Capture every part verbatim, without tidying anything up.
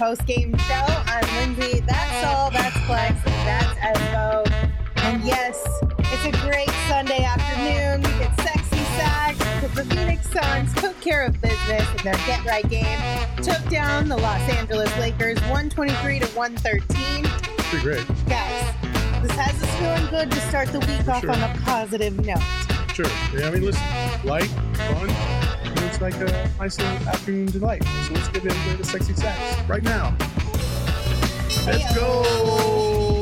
post-game show. I'm Lindsay. That's all. That's Flex. That's Espo. And yes, it's a great Sunday afternoon. We get sexy sacks because the Phoenix Suns took care of business in their get-right game. Took down the Los Angeles Lakers one twenty-three to one thirteen. Pretty great. Guys, this has us feeling good to start the week For off sure. on a positive note. Sure. Yeah, I mean, listen, light, fun. and It's like a nice little afternoon delight. So let's get into the sexy sacks right now. Let's go.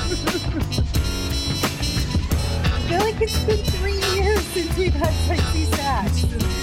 I feel like it's been three years since we've had sexy sacks.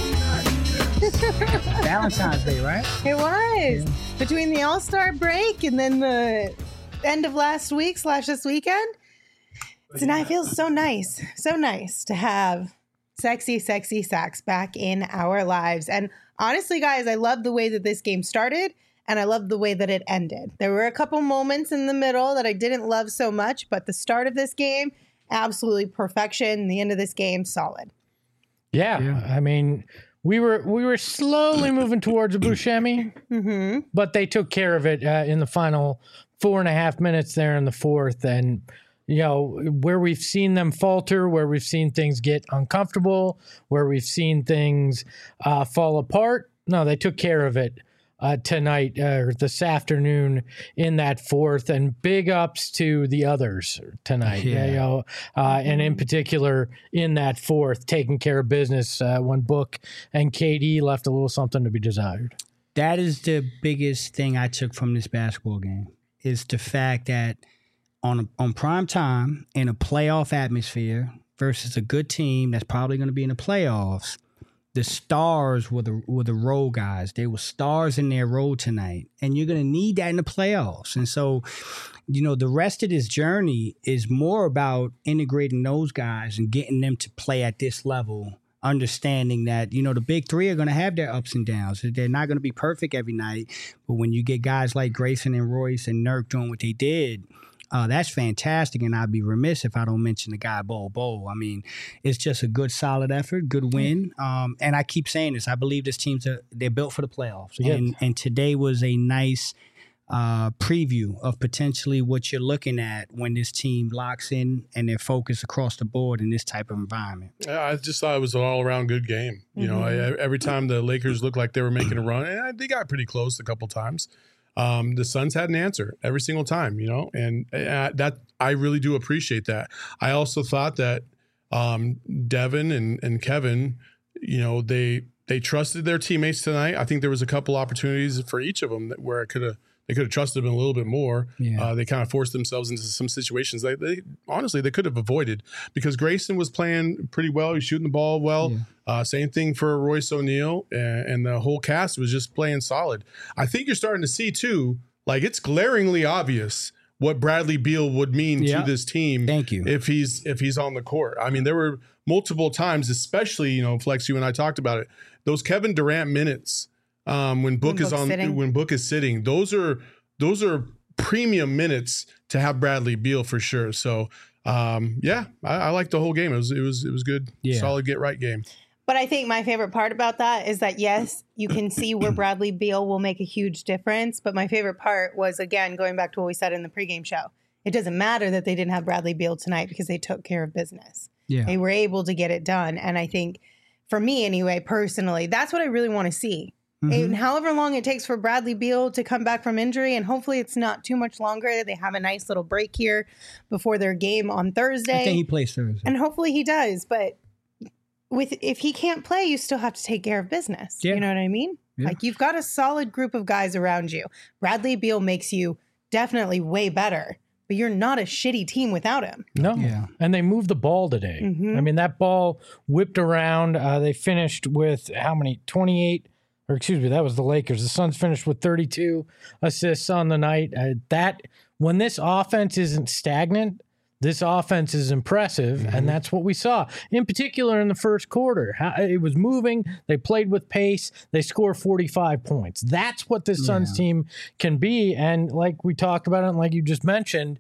Valentine's Day, right? It was. Between the All-Star break and then the end of last week slash this weekend. Tonight feels so nice. So nice to have sexy, sexy sacks back in our lives. And honestly, guys, I love the way that this game started and I love the way that it ended. There were a couple moments in the middle that I didn't love so much, but the start of this game, absolutely perfection. The end of this game, solid. Yeah, Yeah. I mean, we were we were slowly moving towards a Buscemi, Mm-hmm. but they took care of it uh, in the final four and a half minutes there in the fourth. And, you know, where we've seen them falter, where we've seen things get uncomfortable, where we've seen things uh, fall apart, no, they took care of it uh, tonight uh, or this afternoon in that fourth. And big ups to the others tonight, Yeah. you know, uh, and in particular in that fourth, taking care of business uh, when Book and K D left a little something to be desired. That is the biggest thing I took from this basketball game is the fact that on on prime time in a playoff atmosphere versus a good team that's probably going to be in the playoffs, the stars were the were the role guys. They were stars in their role tonight, and you're going to need that in the playoffs. And so, you know, the rest of this journey is more about integrating those guys and getting them to play at this level, understanding that, you know, the big three are going to have their ups and downs. They're not going to be perfect every night. But when you get guys like Grayson and Royce and Nurk doing what they did, uh, that's fantastic. And I'd be remiss if I don't mention the guy, Bol Bol. I mean, it's just a good, solid effort, good win. Um, and I keep saying this. I believe this team's a, they're built for the playoffs. Yeah. And, and today was a nice uh, preview of potentially what you're looking at when this team locks in and they're focused across the board in this type of environment. Yeah, I just thought it was an all-around good game. You know, I, every time the Lakers looked like they were making a run, and they got pretty close a couple times, um, the Suns had an answer every single time, you know, and uh, that I really do appreciate that. I also thought that um, Devin and, and Kevin, you know, they they trusted their teammates tonight. I think there was a couple opportunities for each of them that, where it could have They could have trusted him a little bit more. Yeah. Uh, they kind of forced themselves into some situations they, they honestly they could have avoided because Grayson was playing pretty well. He's shooting the ball well. Yeah. Uh, same thing for Royce O'Neal, and, and the whole cast was just playing solid. I think you're starting to see too, like it's glaringly obvious what Bradley Beal would mean Yeah. to this team. Thank you. If he's if he's on the court. I mean, there were multiple times, especially you know, Flex, you and I talked about it. Those Kevin Durant minutes um, when Book When is Book's on sitting. when Book is sitting. Those are those are premium minutes to have Bradley Beal for sure. So um, yeah, I, I like the whole game. It was it was it was good, Yeah. solid get right game. But I think my favorite part about that is that, yes, you can see where Bradley Beal will make a huge difference. But my favorite part was, again, going back to what we said in the pregame show. It doesn't matter that they didn't have Bradley Beal tonight because they took care of business. Yeah. They were able to get it done. And I think, for me anyway, personally, that's what I really want to see. Mhm. And however long it takes for Bradley Beal to come back from injury, and hopefully it's not too much longer. They have a nice little break here before their game on Thursday. I think he plays Thursday. And hopefully he does. But with if he can't play, you still have to take care of business. Yeah. You know what I mean? Yeah. Like you've got a solid group of guys around you. Bradley Beal makes you definitely way better, but you're not a shitty team without him. No. Yeah. And they moved the ball today. Mhm. I mean, that ball whipped around. Uh, they finished with how many? twenty-eight, or excuse me, that was the Lakers. The Suns finished with thirty-two assists on the night. Uh, that when this offense isn't stagnant, this offense is impressive, Mm-hmm. and that's what we saw. In particular, in the first quarter, how, it was moving. They played with pace. They scored forty-five points. That's what this Suns Yeah. team can be. And like we talked about it, and like you just mentioned,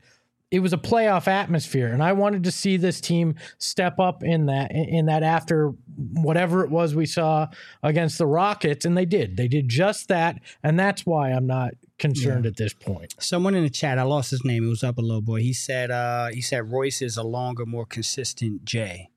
it was a playoff atmosphere, and I wanted to see this team step up in that in that after whatever it was we saw against the Rockets, and they did. They did just that, and that's why I'm not concerned yeah. at this point. Someone in the chat, I lost his name. It was up a little boy. He said uh, he said Royce is a longer, more consistent Jay.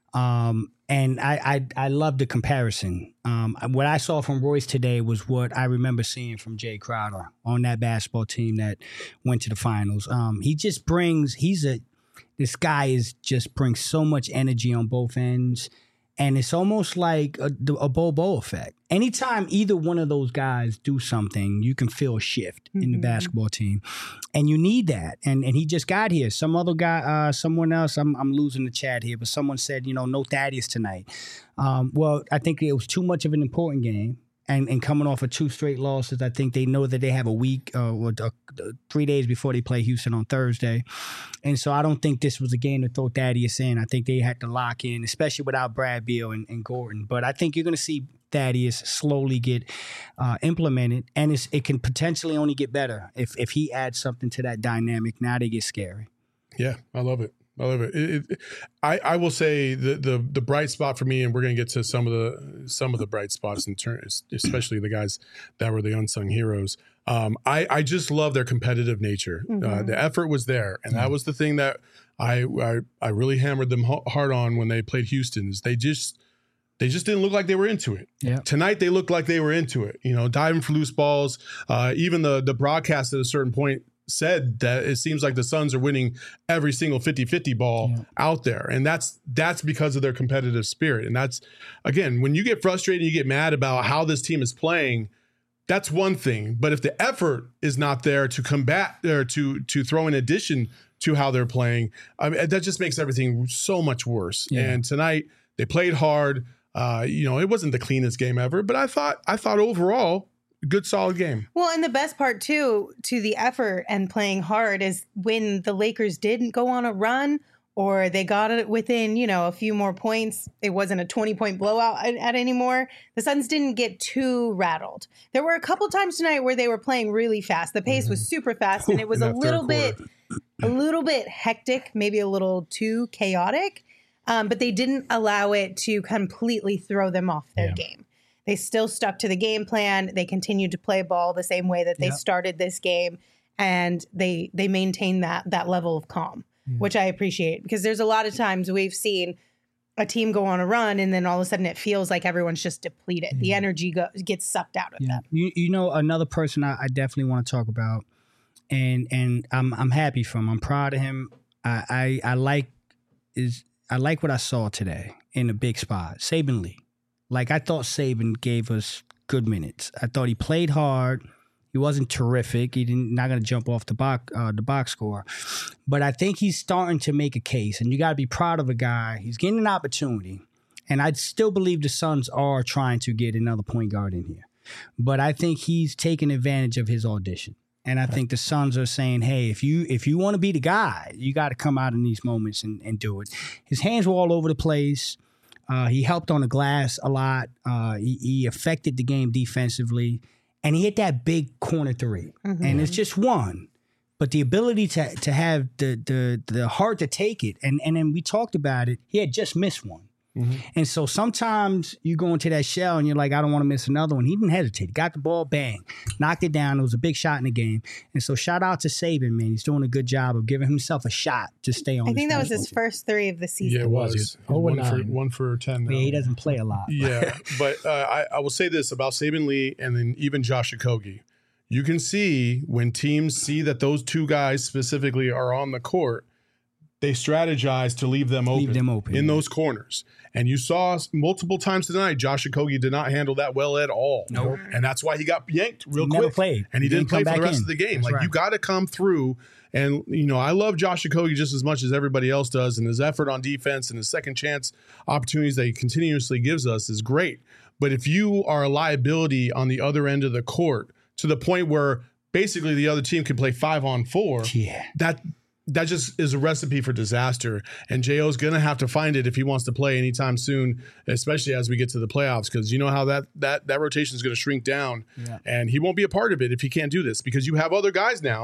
Um, and I, I I love the comparison. Um, what I saw from Royce today was what I remember seeing from Jay Crowder on that basketball team that went to the finals. Um, he just brings, he's a, this guy is just brings so much energy on both ends. And it's almost like a, a Bobo effect. Anytime either one of those guys do something, you can feel a shift mm-hmm. in the basketball team. And you need that. And and he just got here. Some other guy, uh, someone else, I'm I'm losing the chat here, but someone said, you know, no Thaddeus tonight. Um, well, I think it was too much of an important game. And, and coming off of two straight losses, I think they know that they have a week uh, or uh, three days before they play Houston on Thursday. And so I don't think this was a game to throw Thaddeus in. I think they had to lock in, especially without Brad Beal and, and Gordon. But I think you're going to see Thaddeus slowly get uh, implemented, and it's, it can potentially only get better if, if he adds something to that dynamic. Now they get scary. Yeah, I love it. I love it. it, it I, I will say the, the the bright spot for me, and we're going to get to some of the some of the bright spots in terms, especially the guys that were the unsung heroes. Um, I I just love their competitive nature. Mm-hmm. Uh, the effort was there, and that was the thing that I I, I really hammered them hard on when they played Houston. Is they just they just didn't look like they were into it. Yeah. Tonight they looked like they were into it. You know, diving for loose balls. Uh, even the the broadcast at a certain point said that it seems like the Suns are winning every single fifty-fifty ball yeah. out there. And that's that's because of their competitive spirit. And that's, again, when you get frustrated, you get mad about how this team is playing, that's one thing. But if the effort is not there to combat or to to throw in addition to how they're playing, I mean, that just makes everything so much worse. Yeah. And tonight they played hard. Uh, you know, it wasn't the cleanest game ever, but I thought I thought overall, good, solid game. Well, and the best part, too, to the effort and playing hard is when the Lakers didn't go on a run or they got it within, you know, a few more points. It wasn't a twenty-point blowout at, at anymore. The Suns didn't get too rattled. There were a couple times tonight where they were playing really fast. The pace mm-hmm. was super fast, and it was a little bit, a little bit hectic, maybe a little too chaotic. Um, but they didn't allow it to completely throw them off their yeah. game. They still stuck to the game plan. They continued to play ball the same way that they yep. started this game, and they they maintained that that level of calm, mm. which I appreciate, because there's a lot of times we've seen a team go on a run and then all of a sudden it feels like everyone's just depleted. Mm. The energy go, gets sucked out of yeah. them. You you know another person I, I definitely want to talk about, and and I'm I'm happy for him. I'm proud of him. I I, I like is I like what I saw today in a big spot. Saben Lee. Like, I thought Saben gave us good minutes. I thought he played hard. He wasn't terrific. He didn't not going to jump off the box uh, the box score, but I think he's starting to make a case. And you got to be proud of a guy. He's getting an opportunity, and I still believe the Suns are trying to get another point guard in here. But I think he's taking advantage of his audition, and I think the Suns are saying, "Hey, if you if you want to be the guy, you got to come out in these moments and, and do it." His hands were all over the place. Uh, he helped on the glass a lot. Uh, he, he affected the game defensively, and he hit that big corner three. Mm-hmm. And it's just one, but the ability to to have the the the heart to take it, and and then we talked about it. He had just missed one, mm-hmm. and so sometimes you go into that shell and you're like, I don't want to miss another one. He didn't hesitate. Got the ball, bang, knocked it down. It was a big shot in the game, and so shout out to Saben, man. He's doing a good job of giving himself a shot to stay on. I think that was his team. first three of the season. Yeah, it was. Oh, one for one for ten. Now. Yeah, he doesn't play a lot. Yeah, but uh, I, I will say this about Saben Lee and then even Josh Okogie. You can see when teams see that those two guys specifically are on the court, they strategize to leave them open, leave them open in yeah. those corners. And you saw multiple times tonight, Josh Okogie did not handle that well at all. Nope. And that's why he got yanked real he quick. Never played. And he, he didn't, didn't play for the rest in. of the game. That's like right. you got to come through. And, you know, I love Josh Okogie just as much as everybody else does. And his effort on defense and his second chance opportunities that he continuously gives us is great. But if you are a liability on the other end of the court to the point where basically the other team can play five on four, yeah. that that just is a recipe for disaster. And J O's going to have to find it if he wants to play anytime soon, especially as we get to the playoffs, because you know how that that that rotation is going to shrink down, yeah. and he won't be a part of it if he can't do this, because you have other guys now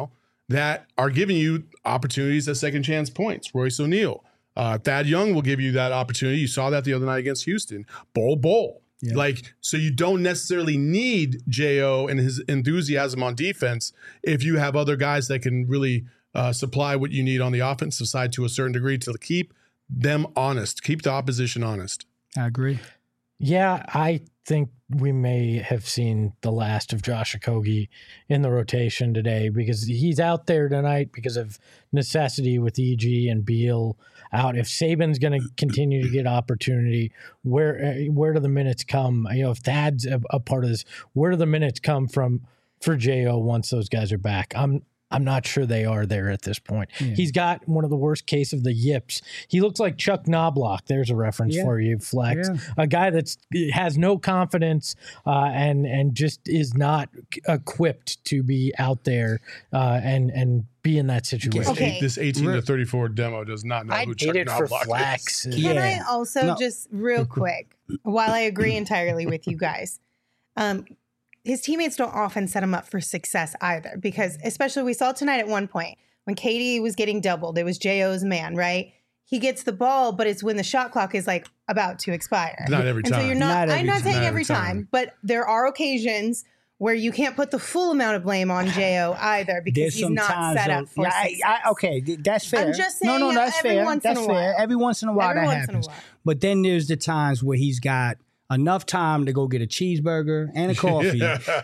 that are giving you opportunities at second chance points. Royce O'Neal, uh, Thad Young will give you that opportunity. You saw that the other night against Houston. Bol Bol. Yeah. Like, so you don't necessarily need J O and his enthusiasm on defense if you have other guys that can really uh, supply what you need on the offensive side to a certain degree to keep them honest, keep the opposition honest. I agree. Yeah, I think we may have seen the last of Josh Okogie in the rotation today because he's out there tonight because of necessity with E G and Beal out. If Saban's going to continue to get opportunity, where where do the minutes come? You know, if Thad's a, a part of this, where do the minutes come from for J O once those guys are back? I'm I'm not sure they are there at this point. Yeah. He's got one of the worst case of the yips. He looks like Chuck Knobloch. There's a reference yeah. for you, Flex. Yeah. A guy that has no confidence uh, and and just is not equipped to be out there uh, and and be in that situation. Okay. This eighteen to thirty-four demo does not know I who Chuck Knobloch Flex. is. Can Yeah. I also No. just real quick, while I agree entirely with you guys, um, his teammates don't often set him up for success either, because especially we saw tonight at one point when K D was getting doubled, it was J O's man, right? He gets the ball, but it's when the shot clock is like about to expire. Not every and time. So you're not, Not every I'm not time. saying Not every every time, time. but there are occasions where you can't put the full amount of blame on J O either because There's he's some not times set though- up for yeah, I, success. I, okay, th- that's fair. I'm just no, no, saying that's every fair. once in That's a fair. while. Every once in a while Every that once in a happens. while. But then there's the times where he's got enough time to go get a cheeseburger and a coffee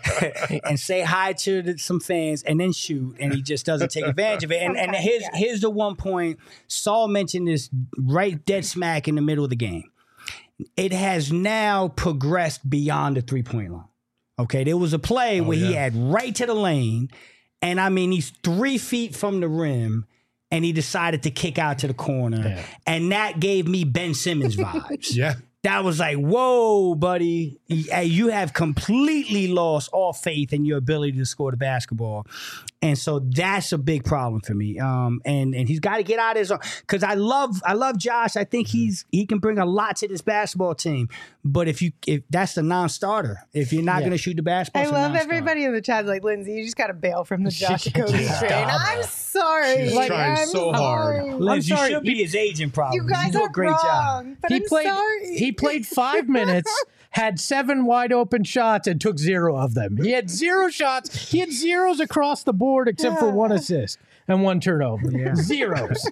and say hi to the, some fans and then shoot, and he just doesn't take advantage of it. And, and Sometimes, here's, yeah. here's the one point. Saul mentioned this right dead smack in the middle of the game. It has now progressed beyond the three-point line. Okay, there was a play Oh, where he yeah. had right to the lane, and I mean, he's three feet from the rim, and he decided to kick out to the corner, Yeah. and that gave me Ben Simmons vibes. Yeah. That was like, whoa, buddy, Hey, you have completely lost all faith in your ability to score the basketball. And so that's a big problem for me. Um, and and he's got to get out of his own, because I love I love Josh. I think he's he can bring a lot to this basketball team. But if you if that's the non-starter, if you're not Yeah. going to shoot the basketball, I it's a love non-starter. everybody in the chat like, Lindsay, you just got to bail from the Josh Stop Okogie train. it. I'm sorry. She's Like, trying I'm so hard. sorry. Liz, you sorry. should be his agent, probably. You guys do are a great wrong, job. but he I'm played. sorry. He played five minutes, had seven wide open shots, and took zero of them. He had zero shots. He had zeros across the board, except for one assist and one turnover. Zeros,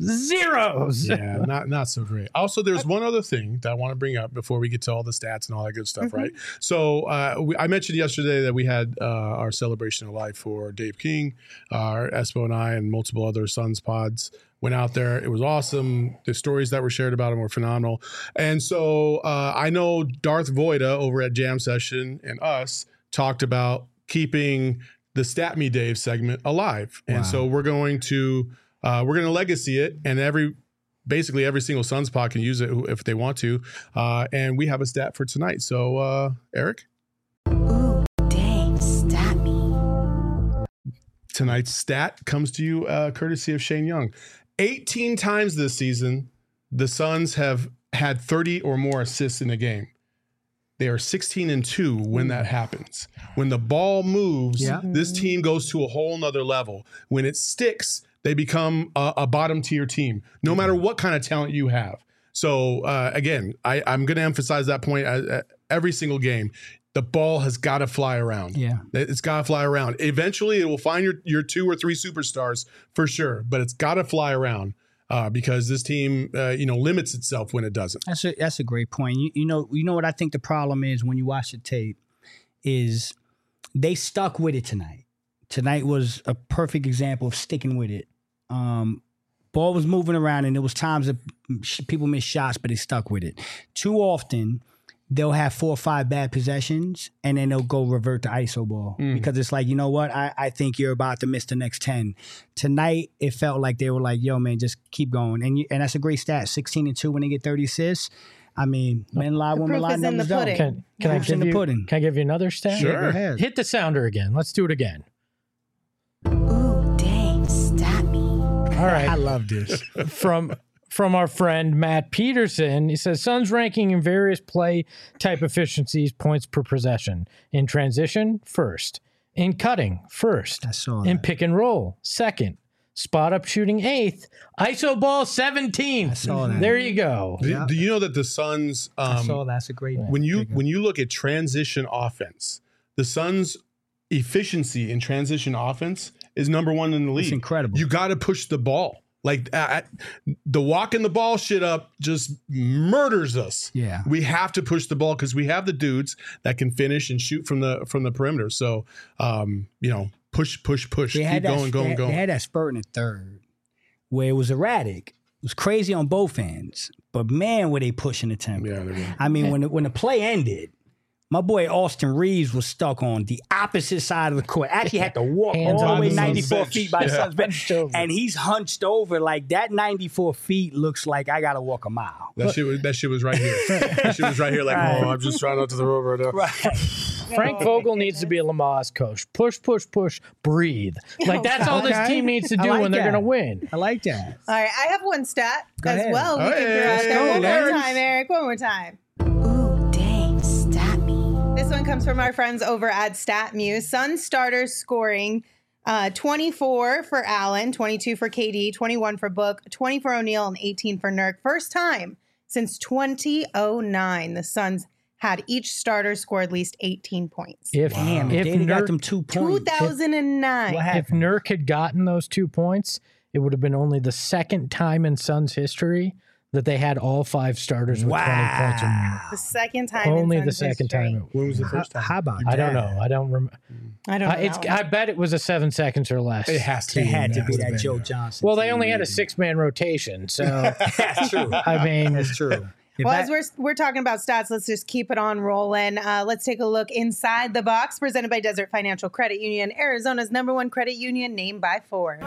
zeros. Yeah, not not so great. Also, there's one other thing that I want to bring up before we get to all the stats and all that good stuff, Mm-hmm. right? So uh, we, I mentioned yesterday that we had uh, our celebration of life for Dave King, our Espo and I, and multiple other Suns pods went out there. It was awesome. The stories that were shared about him were phenomenal. And so uh, I know Darth Voida over at Jam Session and us talked about keeping the Stat Me Dave segment alive. And Wow. so we're going to uh, we're going to legacy it, and every basically every single Suns pod can use it if they want to. Uh, and we have a stat for tonight. So uh, Eric, Ooh, Dave, stat me. tonight's stat comes to you uh, courtesy of Shane Young. eighteen times this season, the Suns have had thirty or more assists in a game. They are sixteen and two when that happens. When the ball moves, Yeah. this team goes to a whole nother level. When it sticks, they become a, a bottom tier team, no matter what kind of talent you have. So uh, again, I, I'm going to emphasize that point at, at every single game. The ball has got to fly around. Yeah. It's got to fly around. Eventually, it will find your, your two or three superstars for sure, but it's got to fly around uh, because this team, uh, you know, limits itself when it doesn't. That's a that's a great point. You, you know you know what I think the problem is when you watch the tape is they stuck with it tonight. Tonight was a perfect example of sticking with it. Um, ball was moving around, and there was times that sh- people missed shots, but they stuck with it. Too often, they'll have four or five bad possessions, and then they'll go revert to I S O ball because it's like, you know what? I, I think you're about to miss the next ten. Tonight, it felt like they were like, yo, man, just keep going. And you, and that's a great stat, sixteen and two when they get thirty assists. I mean, men lie, women proof lie, is in numbers the don't. pudding. Can, can I Proof's in give the you? pudding. Can I give you another stat? Sure. Go ahead. Hit the sounder again. Let's do it again. Ooh, Dave, stat me. All right. I love this. from from our friend Matt Peterson. He says Suns ranking in various play type efficiencies, points per possession. In transition, first. In cutting, first. I saw In that. pick and roll, second. Spot up shooting, eighth. I S O ball, seventeenth. I saw that. There you go. Do, Yeah. do you know that the Suns, I saw um, that. That's a great when you pickup. when you look at transition offense, the Suns' efficiency in transition offense is number one in the league. It's incredible. You got to push the ball. Like uh, the walking the ball shit up just murders us. Yeah. We have to push the ball because we have the dudes that can finish and shoot from the from the perimeter. So, um, you know, push, push, push. They Keep had that, going, they going, had, going. They had that spurt in the third where it was erratic. It was crazy on both ends. But man, were they pushing the tempo. Yeah, they were. I mean, when the, when the play ended, my boy Austin Reeves was stuck on the opposite side of the court. Actually had to walk Hands all on the way the Suns ninety-four bench. feet by the Yeah. Suns bench. Hunched over. And he's hunched over. Like that ninety-four feet looks like I got to walk a mile. That shit was that shit was right here. That shit was right here. Like, Right. oh, I'm just trying not to throw over right now. Right. Frank Vogel needs to be a Lamaze coach. Push, push, push, breathe. Like that's all this Okay. team needs to I do like when they're that. going to win. I like that. All right, I have one stat Go as ahead. well. We Hey, can throw out there let's one go, more Eric. time, Eric. One more time. Ooh, dang, stat me. This one comes from our friends over at StatMuse. Suns starters scoring uh, twenty-four for Allen, twenty-two for K D, twenty-one for Book, twenty for O'Neal, and eighteen for Nurk. First time since twenty oh nine the Suns had each starter score at least eighteen points. If, Damn, if, if they got Nurk, them two two points. thousand nine. What if happened? Nurk had gotten those two points, it would have been only the second time in Suns history that they had all five starters with twenty points or more. Wow. The second time. Only in the Suns second history. time. It, When was the How, first time? how about I that? don't know. I don't remember. I don't Uh, know. it's. I bet it was a seven seconds or less. It has to. They had to It be has that been. Joe Johnson. Well, they team, only had a maybe. six-man rotation, so That's true. I mean, That's true. If Well, I- as we're we're talking about stats, let's just keep it on rolling. Uh, let's take a look inside the box, presented by Desert Financial Credit Union, Arizona's number one credit union, named by Forbes.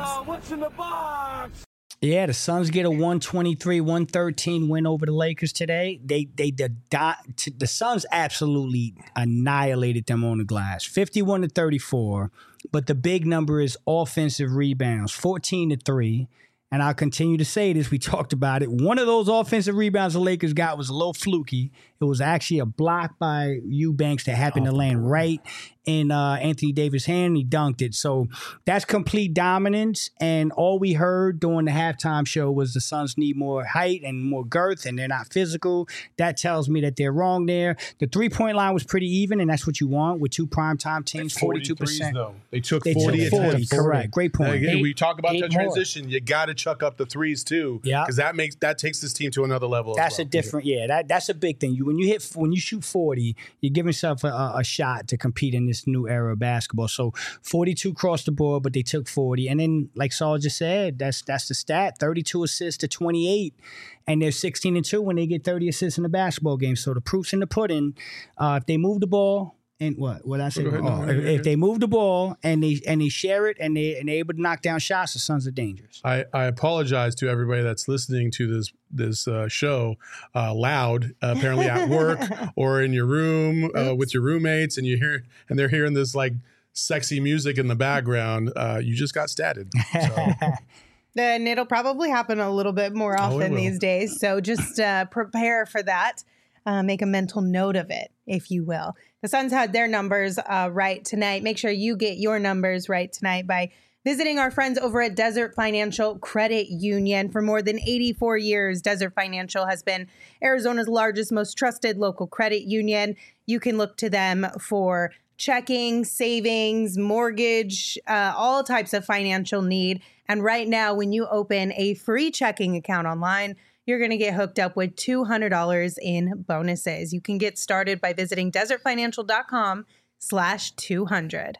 Yeah, the Suns get a one twenty-three one thirteen win over the Lakers today. They they the dot, the Suns absolutely annihilated them on the glass, fifty-one to thirty-four. But the big number is offensive rebounds, fourteen to three. And I'll continue to say this. We talked about it. One of those offensive rebounds the Lakers got was a little fluky. It was actually a block by Eubanks that happened to land right in uh, Anthony Davis' hand. He dunked it. So that's complete dominance. And all we heard during the halftime show was the Suns need more height and more girth, and they're not physical. That tells me that they're wrong there. The three-point line was pretty even, and that's what you want with two primetime teams, forty-two percent. Though. They took They forty took forty. attempts. Correct. Great point. Again, Eight- we talk about eight that more. transition. You got to chuck up the threes too. Yeah. because that makes that takes this team to another level. as That's well. a different, yeah. That that's a big thing. You when you hit when you shoot forty, you're giving yourself a, a, a shot to compete in this new era of basketball. So forty-two across the board, but they took forty, and then like Saul just said, that's that's the stat: thirty-two assists to twenty-eight, and they're sixteen and two when they get thirty assists in a basketball game. So the proof's in the pudding. Uh, if they move the ball. And what? What I say? Go ahead, Oh, no, go ahead, if, go if they move the ball and they and they share it and they and they're able to knock down shots, the Suns are dangerous. I, I apologize to everybody that's listening to this this uh, show uh, loud, uh, apparently at work or in your room uh, with your roommates, and you hear and they're hearing this like sexy music in the background. Uh, you just got statted. So. Then it'll probably happen a little bit more Oh, it often will. these days. So just uh, prepare for that. Uh, make a mental note of it, if you will. The Suns had their numbers uh, right tonight. Make sure you get your numbers right tonight by visiting our friends over at Desert Financial Credit Union. For more than eighty-four years, Desert Financial has been Arizona's largest, most trusted local credit union. You can look to them for checking, savings, mortgage, uh, all types of financial need. And right now, when you open a free checking account online, you're going to get hooked up with two hundred dollars in bonuses. You can get started by visiting desertfinancial.com slash 200.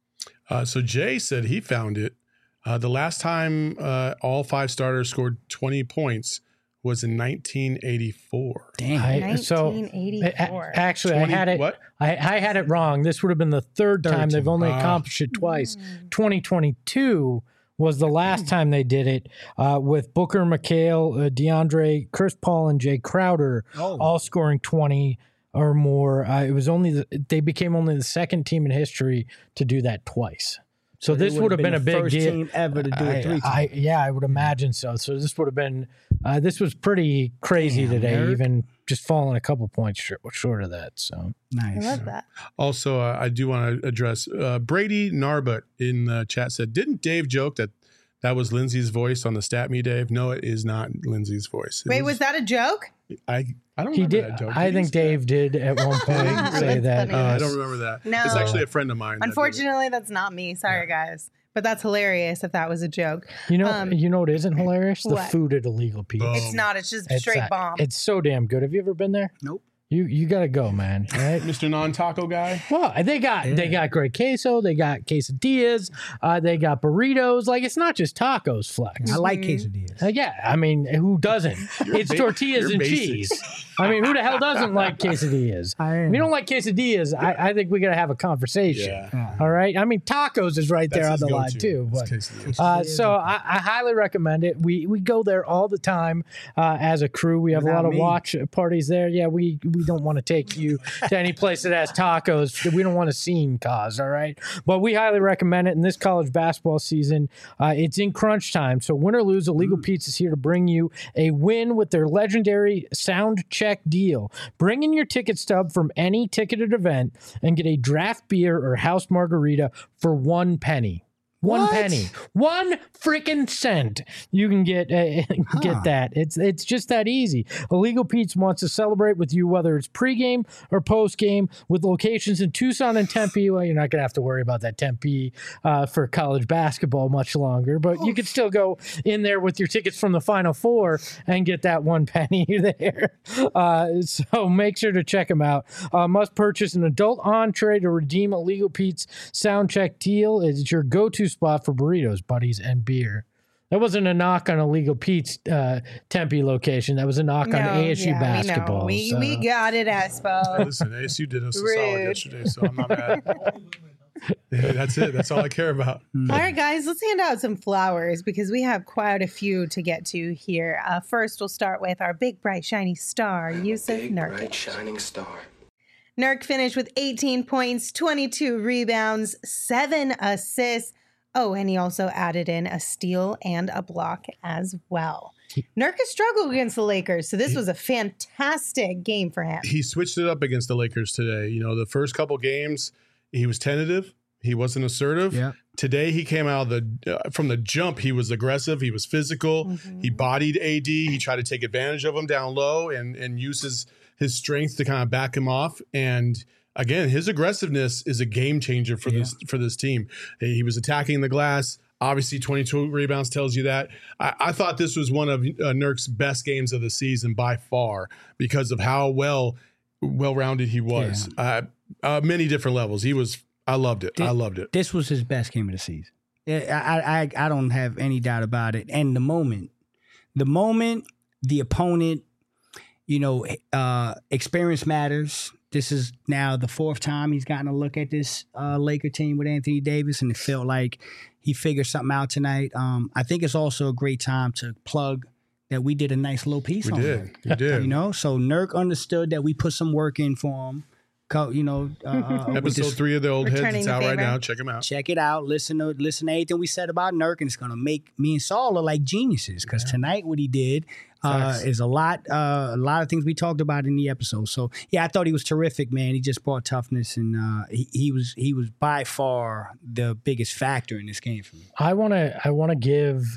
Uh, so Jay said he found it. Uh, the last time uh, all five starters scored twenty points was in nineteen eighty-four. Damn. I, so nineteen eighty-four. a- actually, twenty I had it. what? I, I had it wrong. This would have been the third time Third they've time. only Ah. accomplished it twice. twenty twenty-two was the last time they did it uh, with Booker, McHale, uh, DeAndre, Chris Paul, and Jay Crowder Oh. all scoring twenty or more. Uh, it was only the, they became only the second team in history to do that twice. So They this would have been, a the big first deal. team ever to do it three times. I, I, yeah, I would imagine so. So this would have been, uh, this was pretty crazy Damn, today, Eric. even just fallen a couple points short, short of that. So Nice. I love that. Also, uh, I do want to address uh, Brady Narbut in the chat said, didn't Dave joke that that was Lindsay's voice on the Stat Me, Dave? No, it is not Lindsay's voice. It Wait, was that a joke? I I don't he remember did. that joke. I Did he think say Dave did at one point That's say that. funny. Uh, I yes. don't remember that. No. It's actually a friend of mine. that did it. Unfortunately, that's not me. Sorry, guys. But that's hilarious if that was a joke. You know, Um, you know what isn't hilarious? The what? food at Illegal Pete. Boom. It's not. It's just It's, straight uh, bomb. It's so damn good. Have you ever been there? Nope. You you gotta go, man. All right. Mister Non-Taco Guy. Well, they got they Yeah. got great queso, they got quesadillas, uh, they got burritos. Like it's not just tacos, Flex. I like Mhm. quesadillas. Uh, yeah, I mean, who doesn't? It's ba- tortillas you're and basic. cheese. I mean, who the hell doesn't like quesadillas? I If am. you don't like quesadillas, I, I think we gotta have a conversation. Yeah. All right. I mean, tacos is right there That's on his the line go-to. too. It's But quesadillas. uh, so I, I highly recommend it. We we go there all the time uh, as a crew. We have a Without lot of me. watch parties there. Yeah, we we don't want to take you to any place that has tacos. We don't want a scene cause. All right, but we highly recommend it. In this college basketball season, uh, it's in crunch time. So win or lose, Illegal Pete's is here to bring you a win with their legendary sound check deal. Bring in your ticket stub from any ticketed event and get a draft beer or house margarita for one penny. One What? penny, one freaking cent. You can get uh, get Huh. that. It's it's just that easy. Illegal Pete's wants to celebrate with you, whether it's pregame or postgame, with locations in Tucson and Tempe. Well, you're not gonna have to worry about that Tempe uh, for college basketball much longer, but you could still go in there with your tickets from the Final Four and get that one penny there. Uh, so make sure to check them out. Uh, must purchase an adult entree to redeem Illegal Pete's sound check deal. It's your go-to spot for burritos, buddies, and beer. That wasn't a knock on Illegal Pete's uh, Tempe location. That was a knock on A S U yeah, basketball. We, know. so- we, we got it, Espo. Listen, A S U did us a solid Rude. yesterday, so I'm not mad. Yeah, that's it. That's all I care about. All right, guys, let's hand out some flowers because we have quite a few to get to here. Uh, first, we'll start with our big, bright, shiny star, Yusuf Big, Nurkic. bright, shining star. Nurk finished with eighteen points, twenty-two rebounds, seven assists. Oh, and he also added in a steal and a block as well. Nurk has struggled against the Lakers, so this was a fantastic game for him. He switched it up against the Lakers today. You know, the first couple games, he was tentative. He wasn't assertive. Yep. Today, he came out of the uh, from the jump. He was aggressive. He was physical. Mm-hmm. He bodied A D. He tried to take advantage of him down low and and use his his strength to kind of back him off. And again, his aggressiveness is a game changer for this for this team. He was attacking the glass. Obviously, twenty-two rebounds tells you that. I, I thought this was one of uh, Nurk's best games of the season by far because of how well well-rounded he was. Uh, uh, many different levels. He was. I loved it. Did- I loved it. This was his best game of the season. Yeah, I, I, I don't have any doubt about it. And the moment, the moment, the opponent, you know, uh, experience matters. This is now the fourth time he's gotten a look at this uh, Laker team with Anthony Davis, and it felt like he figured something out tonight. Um, I think it's also a great time to plug that we did a nice little piece We on did. him. We did. You know, so Nurk understood that we put some work in for him. Co- You know, uh, uh, with Episode this- three of the old heads. Returning It's the out right favor. now. Check him out. check it out. Listen to listen to everything we said about Nurk, and it's gonna make me and Saul look like geniuses. Because tonight, what he did uh, Facts. is a lot, uh, a lot of things we talked about in the episode. So yeah, I thought he was terrific, man. He just brought toughness, and uh, he, he was he was by far the biggest factor in this game for me. I want to I want to give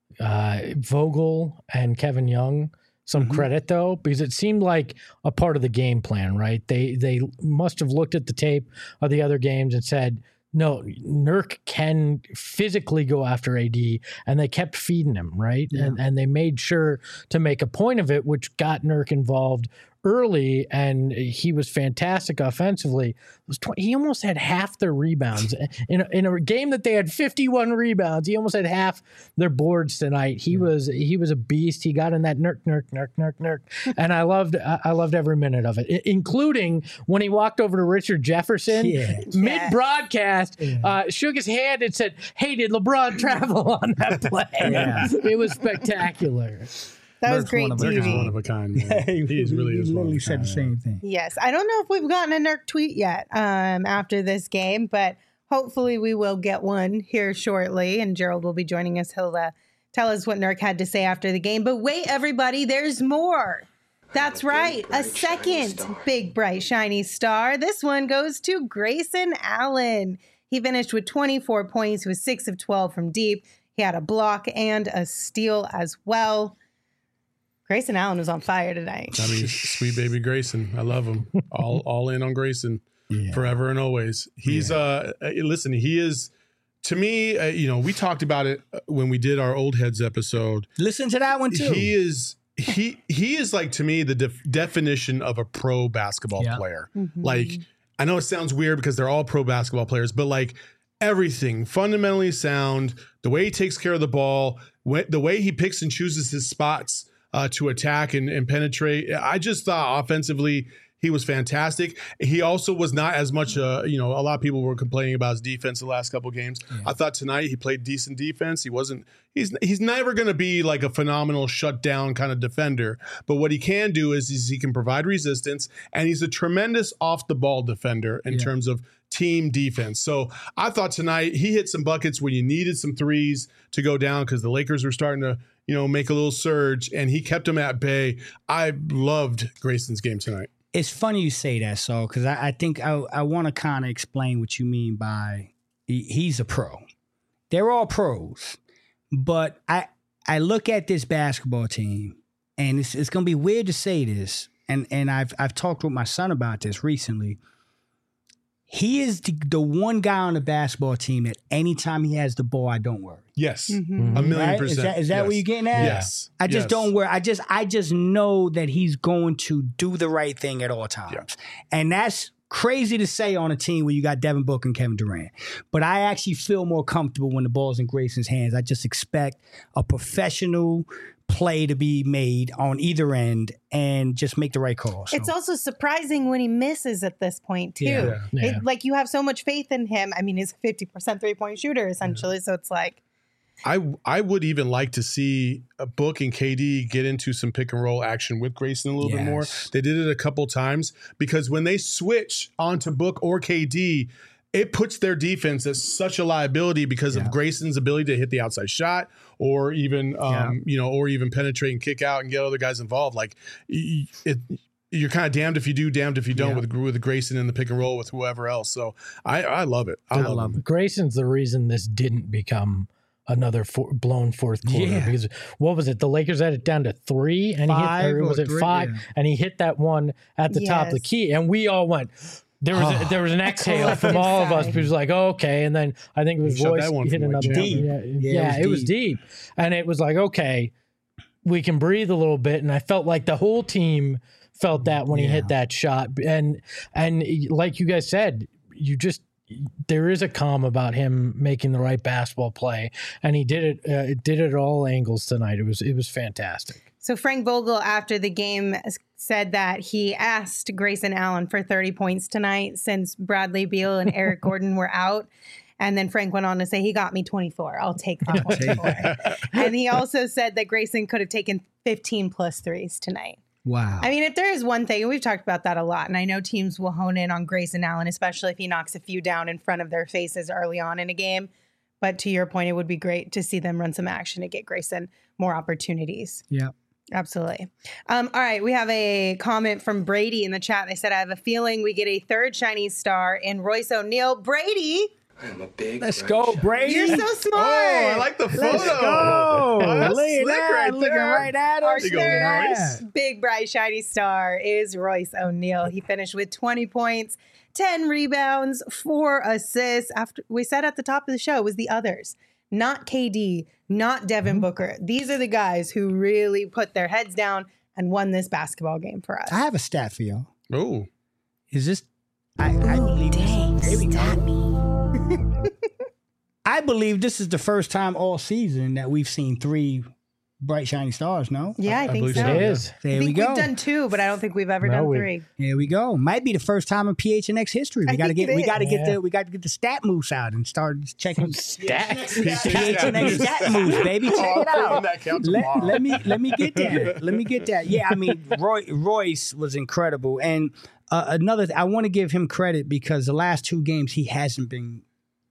uh, Vogel and Kevin Young some Mhm. credit though, because it seemed like a part of the game plan, right? They they must have looked at the tape of the other games and said, no, Nurk can physically go after A D, and they kept feeding him, right? Yeah. And and they made sure to make a point of it, which got Nurk involved early, and he was fantastic offensively. It was twenty, he almost had half their rebounds in a, in a game that they had fifty-one rebounds. He almost had half their boards tonight. He was he was a beast. He got in that Nurk Nurk Nurk Nurk Nurk, and I loved I I loved every minute of it, I- including when he walked over to Richard Jefferson Yeah. mid broadcast, uh, shook his hand and said, "Hey, did LeBron travel on that play?" Yeah. It was spectacular. That was Nurk's great one of a Nurk is T V. one of a kind. Man. he, he is really he is one of literally a said kind. the same thing. Yes, I don't know if we've gotten a Nurk tweet yet um, after this game, but hopefully we will get one here shortly. And Gerald will be joining us. He'll uh, tell us what Nurk had to say after the game. But wait, everybody, there's more. That's right. A second big, bright, shiny star. This one goes to Grayson Allen. He finished with twenty-four points, with six of twelve from deep. He had a block and a steal as well. Grayson Allen was on fire tonight. I mean, sweet baby Grayson. I love him. All all in on Grayson Yeah. forever and always. He's, uh, uh, listen, he is, to me, uh, you know, we talked about it when we did our Old Heads episode. Listen to that one too. He is, he, he is like, to me, the def- definition of a pro basketball Yeah. player. Mm-hmm. Like, I know it sounds weird because they're all pro basketball players, but like everything fundamentally sound, the way he takes care of the ball, wh- the way he picks and chooses his spots uh, to attack and, and penetrate. I just thought offensively he was fantastic. He also was not as much, uh, you know, a lot of people were complaining about his defense the last couple games. Yeah. I thought tonight he played decent defense. He wasn't, he's he's never going to be like a phenomenal shutdown kind of defender. But what he can do is, is he can provide resistance, and he's a tremendous off the ball defender in yeah. terms of team defense. So I thought tonight he hit some buckets when you needed some threes to go down because the Lakers were starting to, you know, make a little surge, and he kept them at bay. I loved Grayson's game tonight. It's funny you say that, Saul, because I, I think I, I want to kind of explain what you mean by he, he's a pro. They're all pros, but I I look at this basketball team, and it's it's going to be weird to say this, and and I've I've talked with my son about this recently. He is the, the one guy on the basketball team that anytime he has the ball, I don't worry. Yes, mm-hmm. a million right? percent. Is that, is that yes. what you're getting at? Yes. I just yes. don't worry. I just I just know that he's going to do the right thing at all times. Yeah. And that's crazy to say on a team where you got Devin Booker and Kevin Durant. But I actually feel more comfortable when the ball's in Grayson's hands. I just expect a professional play to be made on either end and just make the right call. So. It's also surprising when he misses at this point too. Yeah. Yeah. It, like you have so much faith in him. I mean, he's a fifty percent three-point shooter essentially. Yeah. So it's like, I I would even like to see a Book and K D get into some pick and roll action with Grayson a little yes. bit more. They did it a couple times because when they switch onto Book or K D, it puts their defense as such a liability because yeah. of Grayson's ability to hit the outside shot or even um, yeah. you know, or even penetrate and kick out and get other guys involved. Like it, you're kind of damned if you do, damned if you don't yeah. with with Grayson in the pick and roll with whoever else. So I I love it. I, I love, love it. Grayson's the reason this didn't become another four, blown fourth quarter yeah. because what was it? The Lakers had it down to three, and five he hit, or was it three, five? Yeah. And he hit that one at the yes. top of the key, and we all went. There was oh. a, there was an exhale from all of us. It was like, oh, okay, and then I think it was Royce hit another one. Deep. Yeah, yeah, yeah, it, was, it was deep. deep, and it was like, okay, we can breathe a little bit. And I felt like the whole team felt that when yeah. he hit that shot, and and like you guys said, you just. There is a calm about him making the right basketball play, and he did it. Uh, did it at all angles tonight. It was it was fantastic. So Frank Vogel, after the game, said that he asked Grayson Allen for thirty points tonight since Bradley Beal and Eric Gordon were out. And then Frank went on to say, he got me twenty-four. I'll take the twenty-four. And he also said that Grayson could have taken fifteen plus threes tonight. Wow. I mean, if there is one thing, and we've talked about that a lot, and I know teams will hone in on Grayson Allen, especially if he knocks a few down in front of their faces early on in a game. But to your point, it would be great to see them run some action to get Grayson more opportunities. Yeah. Absolutely. Um, all right. We have a comment from Brady in the chat. They said, I have a feeling we get a third Chinese star in Royce O'Neal. Brady. I'm a big Let's go, Brady. You're so smart. Oh, I like the photo. Let's go. Oh, that's Look at slick that. right Looking there. right at Our us. You go, Look at Royce. that. big, bright, shiny star is Royce O'Neal. He finished with twenty points, ten rebounds, four assists. After we said at the top of the show, it was the others, not K D, not Devin mm-hmm. Booker. These are the guys who really put their heads down and won this basketball game for us. I have a stat for y'all. Oh, Is this? I, I believe. Dang, Here we go. stat me. I believe this is the first time all season that we've seen three bright, shiny stars, no? Yeah, I, I think believe so. so. It is. There I think we go. we've done two, but I don't think we've ever No, done we- three. Here we go. Might be the first time in P H N X history. We I got to think get it we is. got to get Yeah. the we got to get the stat moves out and start checking Stats. P H N X stat moves, baby. Check Oh, it I'm putting out. that count Let, tomorrow. let me let me get that. Let me get that. Yeah, I mean, Roy, Royce was incredible, and uh, another. Th- I want to give him credit because the last two games he hasn't been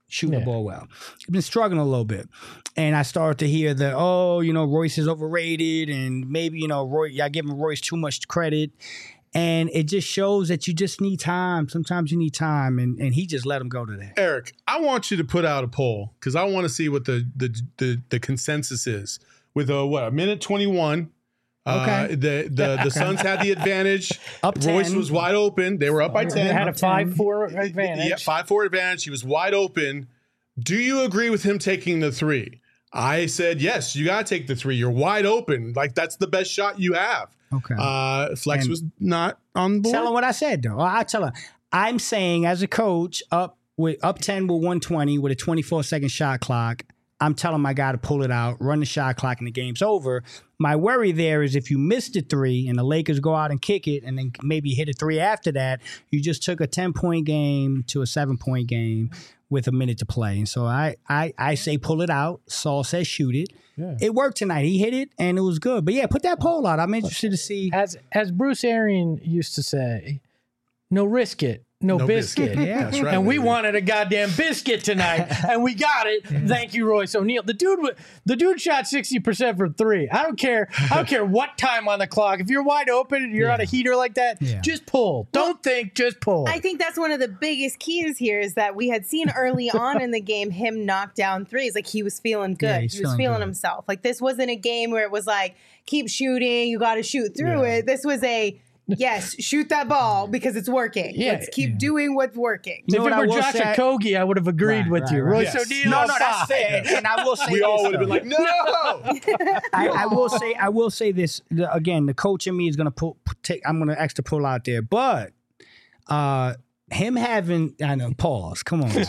shooting Yeah. the ball well. He's been struggling a little bit. And I started to hear that, oh, you know, Royce is overrated and maybe, you know, Roy, y'all giving Royce too much credit. And it just shows that you just need time. Sometimes you need time. And, and he just let him go to that. Eric, I want you to put out a poll because I want to see what the the the, the consensus is. With a what a minute twenty-one. Okay. Uh, the the the Suns had the advantage. Up Royce ten. was wide open. They were up by They ten. had a five four advantage. Yeah, five four advantage. He was wide open. Do you agree with him taking the three? I said yes. You got to take the three. You're wide open. Like that's the best shot you have. Okay. Uh, Flex And- was not on board. Tell him what I said, though. I'll tell her. I'm saying as a coach, up with up ten with one twenty with a twenty-four second shot clock, I'm telling my guy to pull it out, run the shot clock, and the game's over. My worry there is if you miss the three and the Lakers go out and kick it and then maybe hit a three after that, you just took a ten-point game to a seven-point game with a minute to play. And so I I, I say pull it out. Saul says shoot it. Yeah. It worked tonight. He hit it, and it was good. But, yeah, put that poll out. I'm interested to see. As as Bruce Arian used to say, no risk it, no, No biscuit. biscuit. Yeah. That's right, And we baby. wanted a goddamn biscuit tonight, and we got it. Thank you, Royce O'Neal. The dude, wa- the dude shot sixty percent from three. I don't care. I don't care what time on the clock. If you're wide open and you're on a heater like that, Yeah. just pull. Don't think, just pull. I think that's one of the biggest keys here is that we had seen early on in the game him knock down threes. Like he was feeling good. Yeah, he he's was feeling feeling good. himself. Like this wasn't a game where it was like, keep shooting, you got to shoot through Yeah. it. This was a, yes, shoot that ball because it's working. Yeah. Let's keep doing what's working. You know if what it I were will Josh say? Okogie, I would have agreed Right, with right, you. right. Royce Yes. O'Neal, No, on no, that's five. fair. And I will say We this, all would have though. been like, no. I, I will say, I will say this the- again. The coach in me is gonna pull. Take. I'm gonna extra pull out there, but uh, him having. I know. Pause. Come on, guys.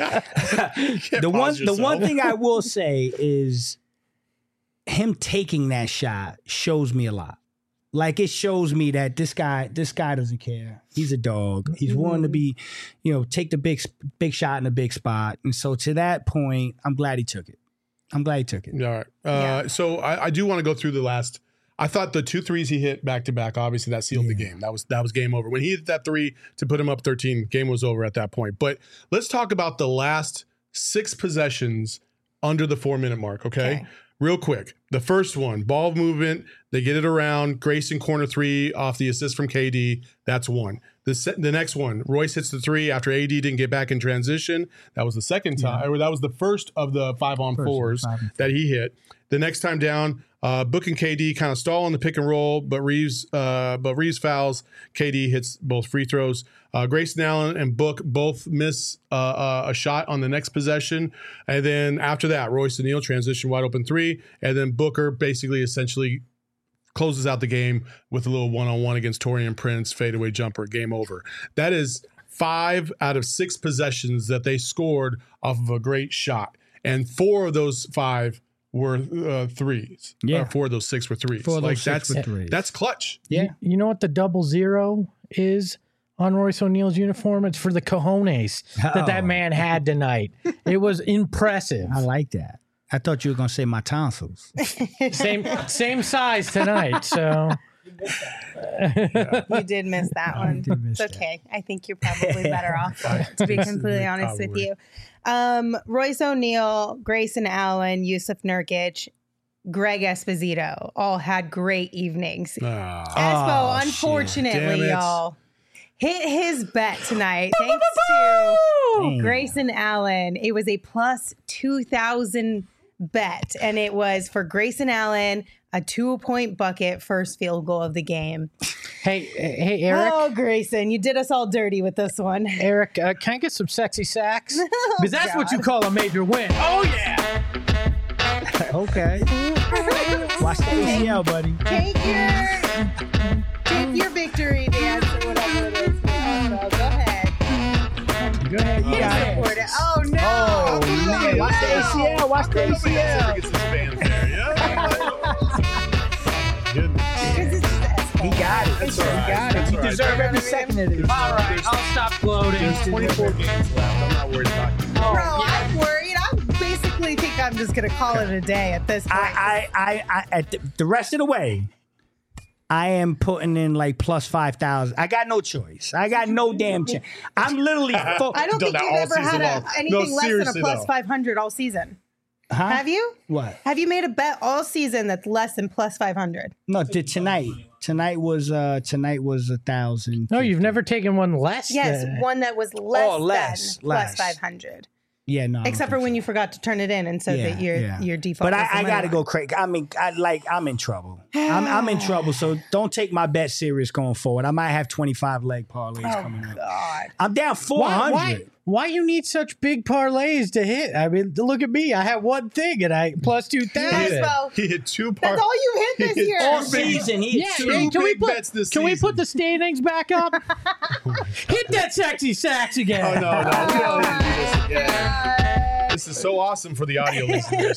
the one. pause The one yourself. thing I will say is him taking that shot shows me a lot. Like it shows me that this guy, this guy doesn't care. He's a dog. He's willing to be, you know, take the big, big shot in a big spot. And so to that point, I'm glad he took it. I'm glad he took it. All right. Uh, Yeah. So I, I do want to go through the last. I thought the two threes he hit back to back, obviously that sealed the game. That was that was game over. When he hit that three to put him up thirteen, game was over at that point. But let's talk about the last six possessions under the four minute mark. Okay, Okay. real quick. The first one, ball movement. They get it around. Grayson corner three off the assist from K D. That's one. The se- the next one, Royce hits the three after A D didn't get back in transition. That was the second time. Or that was the first of the five on First of the fours five on that he hit. The next time down, uh, Book and K D kind of stall on the pick and roll, but Reeves, uh, but Reeves fouls. K D hits both free throws. Uh, Grayson Allen and Book both miss uh, uh, a shot on the next possession, and then after that, Royce O'Neal transition wide open three, and then Booker basically essentially closes out the game with a little one on one against Torian Prince fadeaway jumper. Game over. That is five out of six possessions that they scored off of a great shot, and four of those five were uh, threes. Yeah. Or four of those six were threes. Four of like those six that's were threes. that's clutch. Yeah. You, you know what the double zero is on Royce O'Neal's uniform? It's for the cojones that that Oh. man had tonight. It was impressive. I like that. I thought you were gonna say my tonsils. Same same size tonight. So You did miss that one. did miss It's okay. I think you're probably better off, to be completely honest with you. Um, Royce O'Neal, Grayson Allen, Yusuf Nurkic, Greg Esposito all had great evenings. Ah. Espo, Oh, shit. unfortunately, Damn it. y'all, hit his bet tonight thanks to Damn. Grayson Allen. It was a plus two thousand bet, and it was for Grayson Allen, a two-point bucket, first field goal of the game. hey hey Eric. Oh, Grayson, you did us all dirty with this one. Eric, uh, can I get some sexy sacks? Because that's what you God. call a major win. Oh yeah. Okay. Watch the A C L, buddy. Take your, take your victory dance or whatever it is. Oh, go ahead. Go ahead. You got it. Support it. Oh, no. Oh, Oh, man. Watch the A C L. Watch the A C L. Because it's just He got it. That's all right. He got it. That's You all right. deserve every second of this. All right, I'll stop gloating. There's twenty-four games left. I'm not worried about it. Bro, I'm worried. I basically think I'm just going to call it a day at this point. I, I, I, I, at the, the rest of the way, I am putting in like plus five thousand. I got no choice. I got no damn chance. I'm literally. Fo- I don't Done think that you've all ever had season a, long. anything No, less than a seriously, plus though. five hundred all season. huh? Have you? What? Have you made a bet all season that's less than plus five hundred? No, t- tonight. Tonight was uh tonight was a thousand. No, you've never taken one less. Yes, than- one that was less, Oh, less, than less. plus five hundred. Yeah, no. I don't Except for think when so. you forgot to turn it in, and so Yeah, that your yeah. your default. But was the I, I money gotta line. go crazy. I mean, I like I'm in trouble. I'm I'm in trouble. So don't take my bet serious going forward. I might have twenty-five leg parlays coming up. Oh, God. I'm down four Why, hundred. why, why you need such big parlays to hit? I mean, look at me. I have one thing and I plus two Yes, thousand. well, He hit two par. that's all you hit this He hit year. All season, he Yeah, hit two. hey, can we big put bets this can we season. put the standings back up? Hit that sexy sax again. Oh, no, no. We don't need to do this again. This is so awesome for the audio listeners.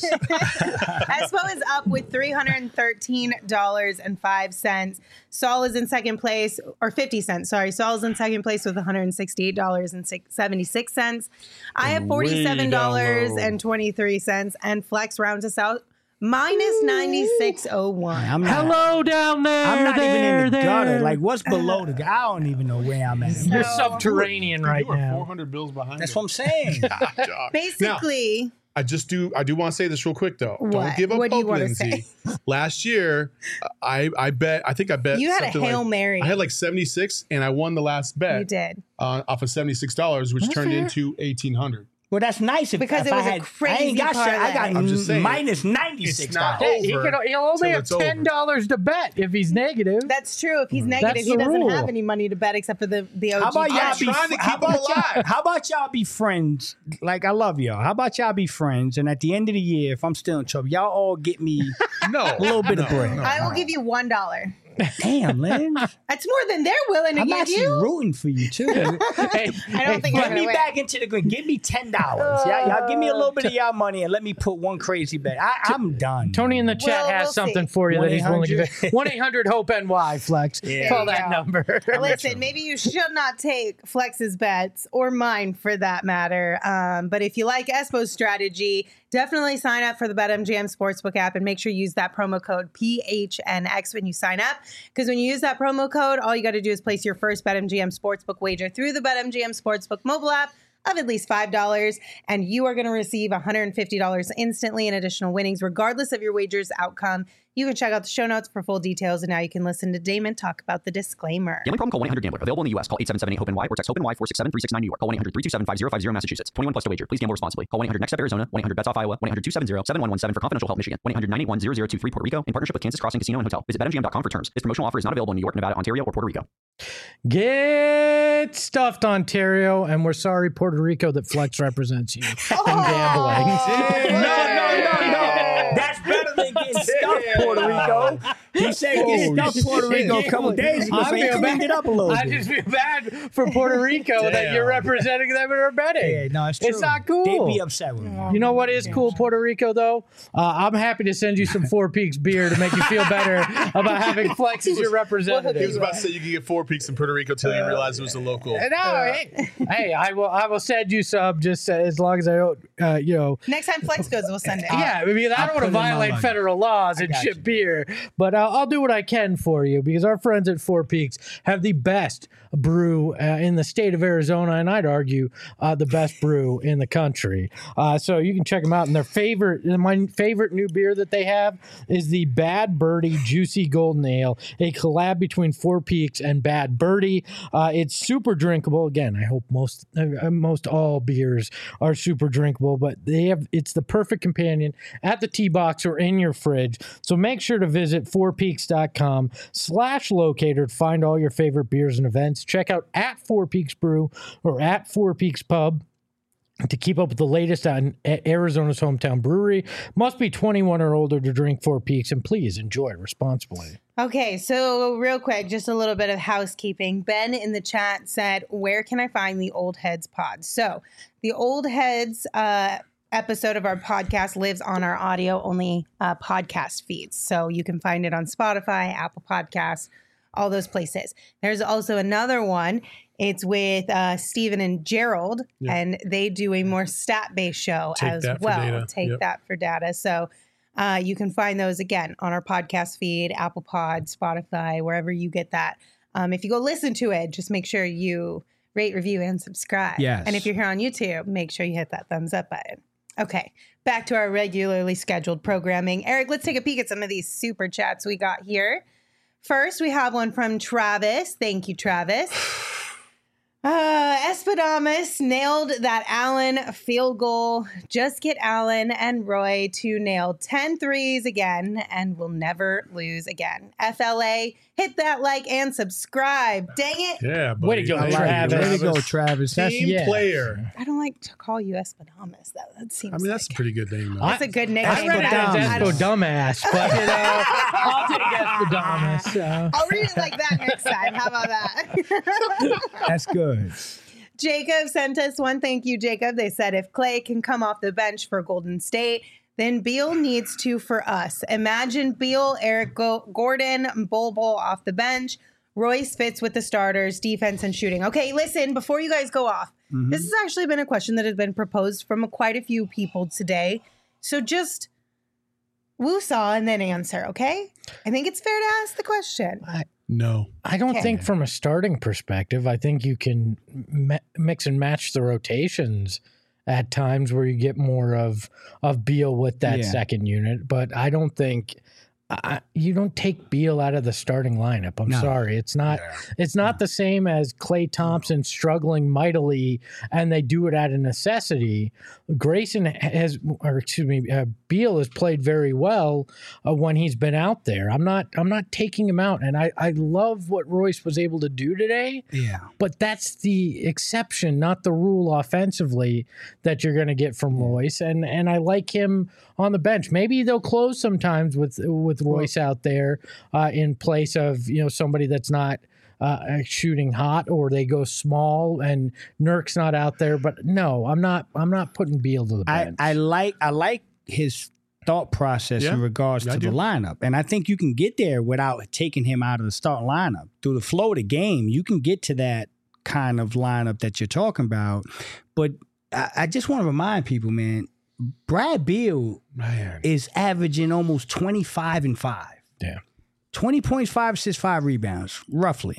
Espo is up with three hundred thirteen dollars and five cents. Saul is in second place, or fifty cents. Sorry, Saul is in second place with one hundred sixty-eight dollars and seventy-six cents. I have forty-seven dollars and twenty-three cents, and Flex rounds us out minus ninety-six oh one. I'm not, Hello down there. I'm not there, even in the there. gutter. Like, what's below the gutter? I don't even know where I'm at. You're So- subterranean right You are now. four hundred bills behind. That's him. what I'm saying. Now, Basically, I just do. I do want to say this real quick though. What? Don't give up What do you hope, wanna Lindsay. Last year, I I bet. I think I bet. you had a something Hail like, Mary. I had like seventy-six, and I won the last bet. You did. Uh, off of seventy-six dollars, which That's turned fair. into eighteen hundred. Well, that's nice. If, Because if it was I a had, I crazy ain't got shit. I got parlay. I'm just saying, minus ninety-six it's not dollars. Hey, he over could, he'll only till have it's over. ten dollars to bet if he's negative. That's true. If he's Mm. negative, That's he the doesn't rule. have any money to bet except for the the O G. How about y'all I'm be trying to how keep 'em about y'all, alive. how about y'all be friends? Like I love y'all. How about y'all be friends? And at the end of the year, if I'm still in trouble, y'all all get me No, a little bit of bread. I will give you one dollar. Damn, Lynn. That's more than they're willing to I'm give actually you. rooting for you too. Hey, I don't hey, think you're Get gonna me win. back into the green. Give me ten dollars. Y'all, y'all give me a little bit of y'all money and let me put one crazy bet. I, I'm done. Tony in the chat Well, has we'll something see. for you that he's willing to give. one eight hundred one eight hundred hope N Y Flex. Yeah. Call There you that go. number. Listen, maybe you should not take Flex's bets or mine for that matter. Um, but if you like Espo's strategy, definitely sign up for the BetMGM Sportsbook app and make sure you use that promo code P H N X when you sign up. Because when you use that promo code, all you got to do is place your first BetMGM Sportsbook wager through the BetMGM Sportsbook mobile app of at least five dollars, and you are going to receive one hundred fifty dollars instantly in additional winnings, regardless of your wager's outcome. You can check out the show notes for full details, and now you can listen to Damon talk about the disclaimer. Gambling problem? Call one eight hundred gambler. Available in the U S. Call eight seven seven eight hope N Y or text HOPE-NY four six seven three six nine New York. Call one eight hundred three two seven five zero five zero Massachusetts. twenty-one plus to wager. Please gamble responsibly. Call one eight hundred next step Arizona. one eight hundred bets off Iowa. one eight hundred two seven zero seven one one seven for confidential help Michigan. one eight hundred nine eight one zero zero two three Puerto Rico in partnership with Kansas Crossing Casino and Hotel. Visit bet M G M dot com for terms. This promotional offer is not available in New York, Nevada, Ontario, or Puerto Rico. Get stuffed, Ontario, and we're sorry, Puerto Rico, that Flex represents you in gambling. No, no, no, no. That's better than getting stuffed, Puerto Rico. He said get Oh, stuffed, Puerto Rico, a shit. couple days ago, I so he feel cleaned bad. it up a little I bit. just feel bad for Puerto Rico that Damn. you're representing them and are betting. Yeah, no, it's true. It's not cool. They'd be upset with me. You know what is cool, Puerto Rico, though? Uh, I'm happy to send you some Four Peaks beer to make you feel better about having Flex as your He was representative. about to say you could get four peaks in Puerto Rico till you realize it was a local. No, hey, hey, I will. I will send you some just uh, as long as I don't, uh, you know. Next time Flex goes, we'll send it. Yeah, I mean, I I'll don't want put to it in my violate luggage. federal laws and got ship you. beer, but uh, I'll do what I can for you because our friends at Four Peaks have the best brew uh, in the state of Arizona, and I'd argue uh, the best brew in the country. Uh, so you can check them out. And their favorite, my favorite new beer that they have is the Bad Birdie Juicy Golden Ale, a collab between Four Peaks and Bad Birdie. Uh, it's super drinkable. Again, I hope most uh, most all beers are super drinkable, but they have it's the perfect companion at the tee box or in your fridge. So make sure to visit four peaks dot com slash locator to find all your favorite beers and events. Check out at Four Peaks Brew or at Four Peaks Pub to keep up with the latest on Arizona's hometown brewery. Must be twenty-one or older to drink Four Peaks, and please enjoy responsibly. Okay, so real quick, just a little bit of housekeeping. Ben in the chat said, where can I find the Old Heads pod? So the Old Heads uh, episode of our podcast lives on our audio-only uh, podcast feeds. So you can find it on Spotify, Apple Podcasts, all those places. There's also another one. It's with uh, Steven and Gerald, Yeah. and they do a more stat-based show Take as that for well. data. Take Yep. that for data. So Uh, you can find those again on our podcast feed, Apple Pod, Spotify, wherever you get that. Um, if you go listen to it, just make sure you rate, review, and subscribe. Yes. And if you're here on YouTube, make sure you hit that thumbs up button. Okay, back to our regularly scheduled programming. Eric, let's take a peek at some of these super chats we got here. First, we have one from Travis. Thank you, Travis. Uh, Espadamas nailed that Allen field goal. Just get Allen and Roy to nail ten threes again, and we'll never lose again. F L A, hit that like and subscribe. Dang it. Yeah, buddy. Way to go, Thank you, Travis. Way to go, Travis. That's Team yeah. player. I don't like to call you Espadamas, though. That seems I mean, that's a like, pretty good name, though. that's a good nickname. I read it but I as don't- I Espo don't- Dumbass, but you know, I'll take Espadamas. So. I'll read it like that next time. How about that? That's good. Jacob sent us one. Thank you, Jacob. They said if Clay can come off the bench for Golden State, then Beal needs to for us. Imagine Beal, Eric Go- Gordon, Bol Bol off the bench. Royce fits with the starters, defense and shooting. Okay, listen, before you guys go off, Mm-hmm. this has actually been a question that has been proposed from quite a few people today. So just woo-saw and then answer, okay? I think it's fair to ask the question. No. I don't Okay. think from a starting perspective, I think you can mi- mix and match the rotations at times where you get more of of Beal with that Yeah. second unit. But I don't think I, you don't take Beal out of the starting lineup. I'm No. sorry. It's not it's not the same as Klay Thompson struggling mightily and they do it out of necessity. Grayson has, or excuse me, uh, Beal has played very well uh, when he's been out there. I'm not I'm not taking him out. And I, I love what Royce was able to do today. Yeah. But that's the exception, not the rule offensively that you're going to get from Royce. And and I like him on the bench. Maybe they'll close sometimes with with Royce out there uh, in place of you know somebody that's not uh, shooting hot, or they go small and Nurk's not out there. But no, I'm not. I'm not putting Beal to the I, bench. I like I like his thought process Yeah, in regards I to do. the lineup. And I think you can get there without taking him out of the starting lineup. Through the flow of the game, you can get to that kind of lineup that you're talking about. But I, I just want to remind people, man, Brad Beal Man. is averaging almost twenty-five and five. Yeah. twenty points, five assists, five rebounds, roughly.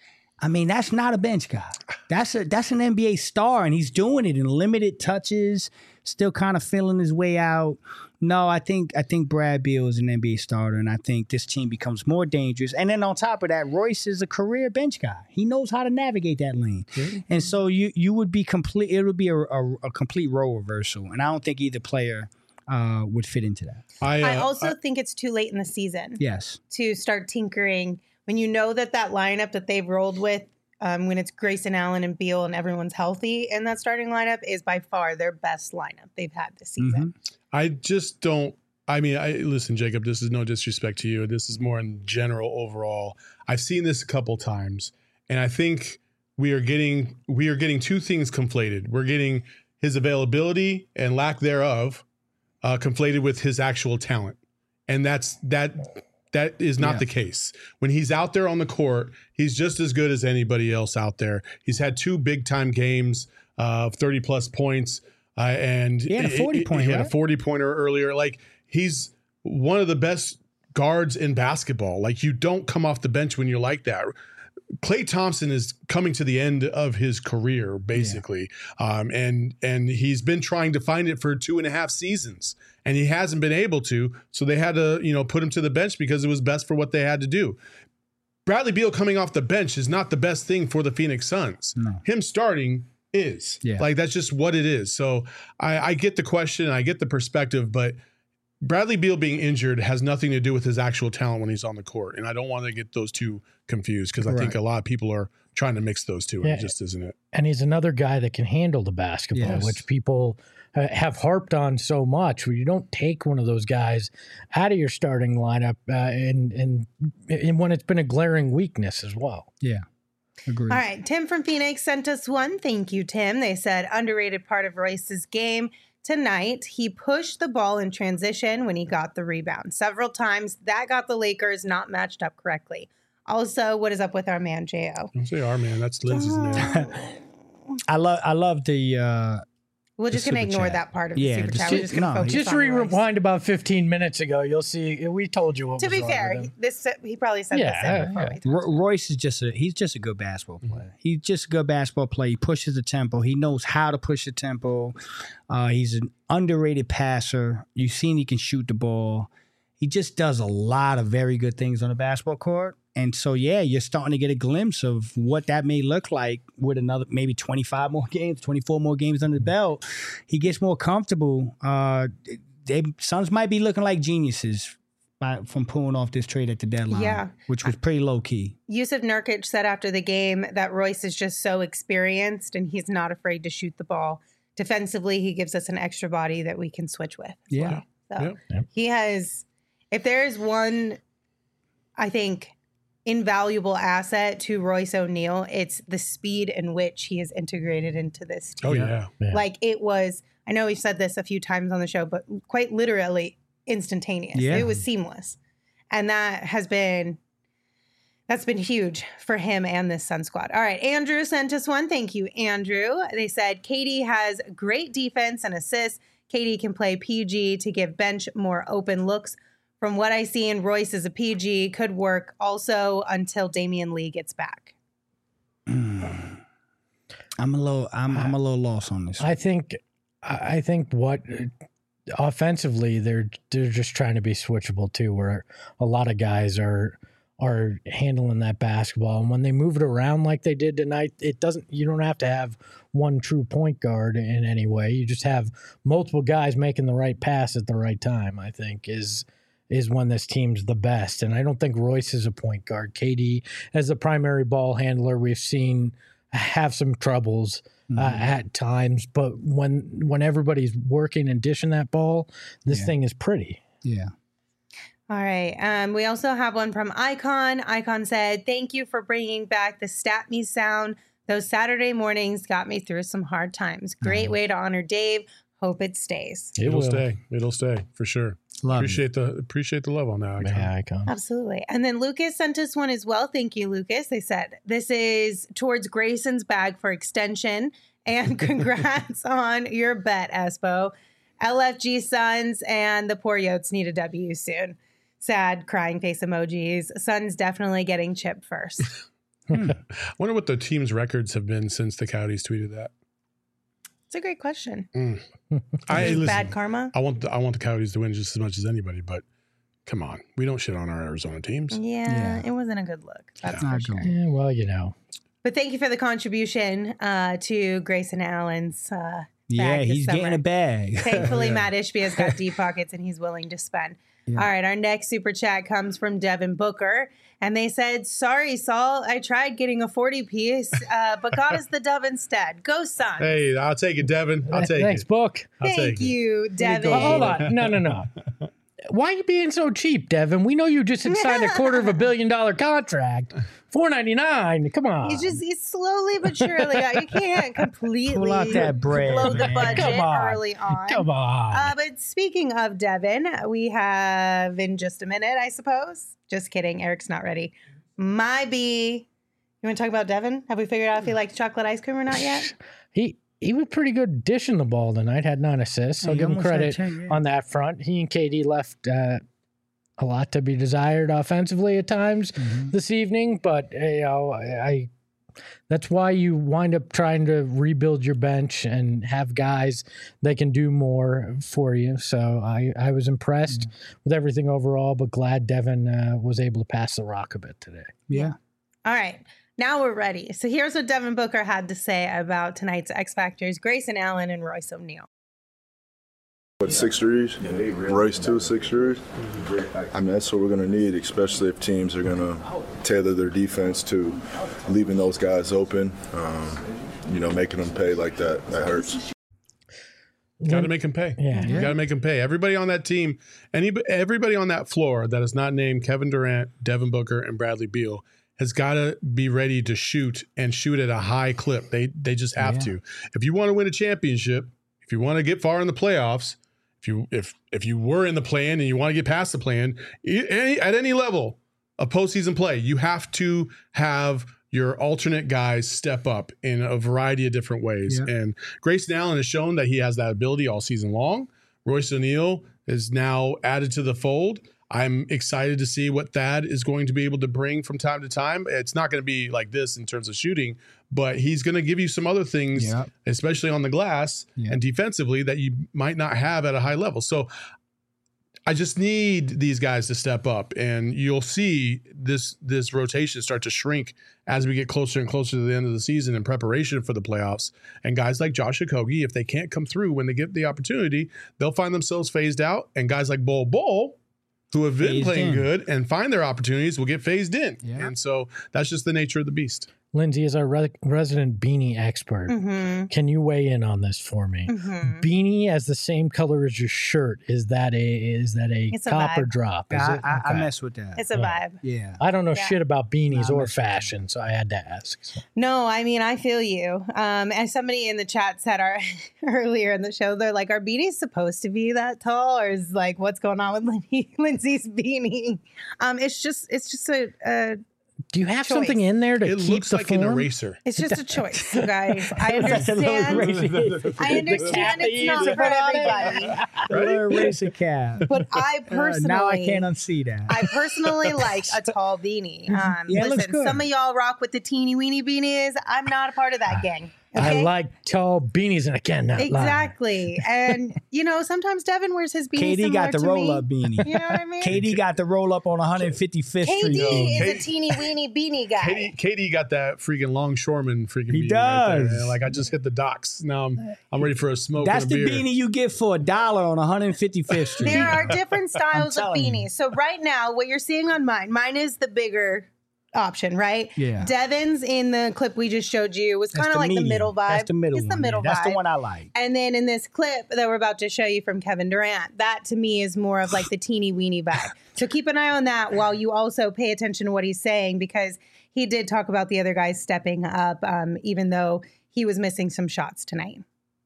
I mean, that's not a bench guy. That's a that's an N B A star, and he's doing it in limited touches, still kind of feeling his way out. No, I think I think Brad Beal is an N B A starter, and I think this team becomes more dangerous. And then on top of that, Royce is a career bench guy. He knows how to navigate that lane, and so you you would be complete. It would be a, a, a complete role reversal, and I don't think either player uh, would fit into that. I, uh, I also think it's too late in the season Yes. to start tinkering when you know that that lineup that they've rolled with, um, when it's Grayson Allen and Beal and everyone's healthy in that starting lineup, is by far their best lineup they've had this season. I just don't. I mean, I listen, Jacob. This is no disrespect to you. This is more in general overall. I've seen this a couple times, and I think we are getting we are getting two things conflated. We're getting his availability and lack thereof uh, conflated with his actual talent, and that's that. That is not Yeah. the case. When he's out there on the court, he's just as good as anybody else out there. He's had two big time games of uh, thirty plus points. Uh, and He had a forty point, He had a right? forty pointer earlier. Like, he's one of the best guards in basketball. Like, you don't come off the bench when you're like that. Klay Thompson is coming to the end of his career, basically, um, and and he's been trying to find it for two and a half seasons, and he hasn't been able to. So they had to, you know, put him to the bench because it was best for what they had to do. Bradley Beal coming off the bench is not the best thing for the Phoenix Suns. No. Him starting is. Yeah. Like, that's just what it is. So I, I get the question, I get the perspective, but Bradley Beal being injured has nothing to do with his actual talent when he's on the court. And I don't want to get those two confused because I think Right. a lot of people are trying to mix those two, and Yeah. it just isn't it. and he's another guy that can handle the basketball, Yes. which people uh, have harped on so much. Where you don't take one of those guys out of your starting lineup, uh, and, and and when it's been a glaring weakness as well. Yeah. Agreed. All right. Tim from Phoenix sent us one. Thank you, Tim. They said underrated part of Royce's game tonight. He pushed the ball in transition when he got the rebound several times. That got the Lakers not matched up correctly. Also, what is up with our man, J O? Don't say our man. That's Lindsay's man. I love I love the uh We're just The going to super ignore chat. that part of Yeah, the super just- chat. We're just going to no, focus Just on Royce. rewind about fifteen minutes ago. You'll see. We told you what To was be wrong fair, with he, him. this he probably said Yeah, the same yeah, before yeah. we talked. Ro- Royce is just a he's just a good basketball player. He's just a good basketball player. He pushes the tempo. He knows how to push the tempo. Uh, he's an underrated passer. You've seen he can shoot the ball. He just does a lot of very good things on the basketball court. And so, yeah, you're starting to get a glimpse of what that may look like with another maybe twenty-five more games, twenty-four more games under the belt. He gets more comfortable. Uh, they Suns might be looking like geniuses by, from pulling off this trade at the deadline, Yeah. which was pretty low key. Yusuf Nurkic said after the game that Royce is just so experienced and he's not afraid to shoot the ball. Defensively, he gives us an extra body that we can switch with. as Yeah. well. So Yep. Yep. he has, if there is one, I think, invaluable asset to Royce O'Neal, it's the speed in which he is integrated into this team. Oh yeah. Yeah. Like it was, I know we've said this a few times on the show, but quite literally instantaneous. Yeah. It was seamless. And that has been, that's been huge for him and this Sun squad. All right. Andrew sent us one. Thank you, Andrew. They said Katie has great defense and assists. Katie can play P G to give bench more open looks. From what I see in Royce as a P G, could work also until Damian Lee gets back. I'm a little I'm I'm a little lost on this. I think I think what offensively they're they're just trying to be switchable too, where a lot of guys are are handling that basketball, and when they move it around like they did tonight, it doesn't you don't have to have one true point guard in any way. You just have multiple guys making the right pass at the right time. I think is is when this team's the best, and I don't think Royce is a point guard. K D as the primary ball handler, we've seen have some troubles uh, at times, but when when everybody's working and dishing that ball, this Yeah. thing is pretty. Yeah. All right. Um, we also have one from Icon. Icon said, "Thank you for bringing back the Stat Me sound. Those Saturday mornings got me through some hard times. Great way to honor Dave. Hope it stays." It It'll will. stay. It'll stay for sure. Love it. appreciate the appreciate the love on that. Icon. Yeah, icon. Absolutely. And then Lucas sent us one as well. Thank you, Lucas. They said, "This is towards Grayson's bag for extension. And congrats on your bet, Espo. L F G Suns and the poor Yotes need a W soon." Sad crying face emojis. Suns definitely getting chipped first. I wonder what the team's records have been since the Coyotes tweeted that. It's a great question. I Is listen, bad karma? I want the, I want the Coyotes to win just as much as anybody, but come on, we don't shit on our Arizona teams. Yeah, Yeah. it wasn't a good look. That's Not for good. sure. Yeah, well, you know. But thank you for the contribution uh, to Grayson Allen's uh, Yeah, bag this he's summer. getting a bag. Thankfully, Yeah. Matt Ishby has got deep pockets and he's willing to spend. Yeah. All right, our next super chat comes from Devin Booker. And they said, "Sorry, Saul, I tried getting a forty piece, uh, but got us the dub instead. Go Suns." Hey, I'll take it, Devin. I'll take Thanks, it. Book. I'll Thank take it. you, Devin. Oh, hold on. No, no, no. Why are you being so cheap, Devin? We know you just had signed a quarter of a billion dollar contract. four ninety-nine. Come on. He's just he's slowly but surely. You can't completely Pull out that bread, blow the man. budget Come on. early on. Come on. Uh, but speaking of Devin, we have in just a minute, I suppose. Just kidding. Eric's not ready. My B. You want to talk about Devin? Have we figured out if he likes chocolate ice cream or not yet? he he was pretty good dishing the ball tonight. Had nine assists. I'll He give him almost had credit ten, yeah. on that front. He and K D left uh, a lot to be desired offensively at times Mm-hmm. this evening, but you know, I, I that's why you wind up trying to rebuild your bench and have guys that can do more for you. So I, I was impressed Mm-hmm. with everything overall, but glad Devin uh, was able to pass the rock a bit today. Yeah. All right. Now we're ready. So here's what Devin Booker had to say about tonight's X Factors, Grayson Allen and Royce O'Neal. What, six threes? Royce two, six threes? I mean, that's what we're going to need, especially if teams are going to tailor their defense to leaving those guys open. Um, you know, making them pay like that, that hurts. Got to make him pay. Yeah. You got to make him pay. Everybody on that team, any everybody on that floor that is not named Kevin Durant, Devin Booker, and Bradley Beal has got to be ready to shoot and shoot at a high clip. They they just have Yeah. to. If you want to win a championship, if you want to get far in the playoffs, if you if if you were in the plan and you want to get past the plan, any, at any level of postseason play, you have to have your alternate guys step up in a variety of different ways. Yeah. And Grayson Allen has shown that he has that ability all season long. Royce O'Neal is now added to the fold. I'm excited to see what Thad is going to be able to bring from time to time. It's not going to be like this in terms of shooting, but he's going to give you some other things, Yep. especially on the glass Yep. and defensively, that you might not have at a high level. So I just need these guys to step up, and you'll see this this rotation start to shrink as we get closer and closer to the end of the season in preparation for the playoffs. And guys like Josh Okogie, if they can't come through when they get the opportunity, they'll find themselves phased out. And guys like Bol Bol, who have been Phased playing in. good and find their opportunities, will get phased in. Yeah. And so that's just the nature of the beast. Lindsay is our re- resident beanie expert. Mm-hmm. Can you weigh in on this for me? Mm-hmm. Beanie as the same color as your shirt. Is that a is that a It's a copper vibe. drop? Is I, it? I, I Okay. mess with that. It's a vibe. Yeah. I don't know Yeah. shit about beanies Nah, I or mess with that. fashion, so I had to ask. So. No, I mean, I feel you. Um, as somebody in the chat said our, earlier in the show, they're like, are beanies supposed to be that tall? Or is like, what's going on with Lin- Lindsay's beanie? Um, it's just, it's just a, a Do you have Choice. something in there to It keep looks the like form? an eraser. it's just a choice, you guys. I That's a little understand. eraser. I understand The it's not cat for that you put on everybody, The little eraser cap. but I Uh, personally, now I can't unsee that. I personally like a tall beanie. Um, Yeah, it looks listen, good. some of y'all rock with the teeny weeny beanies. I'm not a part of that gang. I okay? like tall beanies, and I cannot lie. Exactly. And, you know, sometimes Devin wears his beanie K D similar got the to roll me. up beanie. You know what I mean? K D got the roll up on one fifty-fifth K D Street. is K- a teeny weeny beanie guy. Katie, Katie got that freaking longshoreman freaking He beanie right there. does. And, like I just hit the docks. Now I'm I'm ready for a smoke That's and a the beer. beanie you get for a dollar on one fifty-fifth Street. There are different styles of telling you. beanies. So right now, what you're seeing on mine, mine is the bigger option, right? Yeah. Devin's in the clip we just showed you was That's kind of like medium. the middle vibe. That's the middle It's the one, middle yeah. vibe. That's the one I like. And then in this clip that we're about to show you from Kevin Durant, that to me is more of like the teeny weeny vibe. So keep an eye on that while you also pay attention to what he's saying, because he did talk about the other guys stepping up, um, even though he was missing some shots tonight.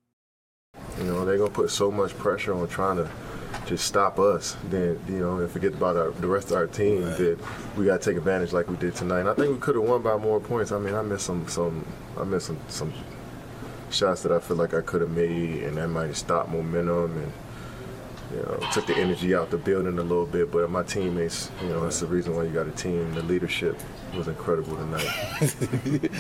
You know, they're going to put so much pressure on trying to just stop us, then, you know, and forget about our, the rest of our team, that we got to take advantage like we did tonight. And I think we could have won by more points. I mean, I missed some, some I missed some, some shots that I feel like I could have made, and that might have stopped momentum and, you know, took the energy out the building a little bit. But my teammates, you know, that's the reason why you got a team. The leadership was incredible tonight.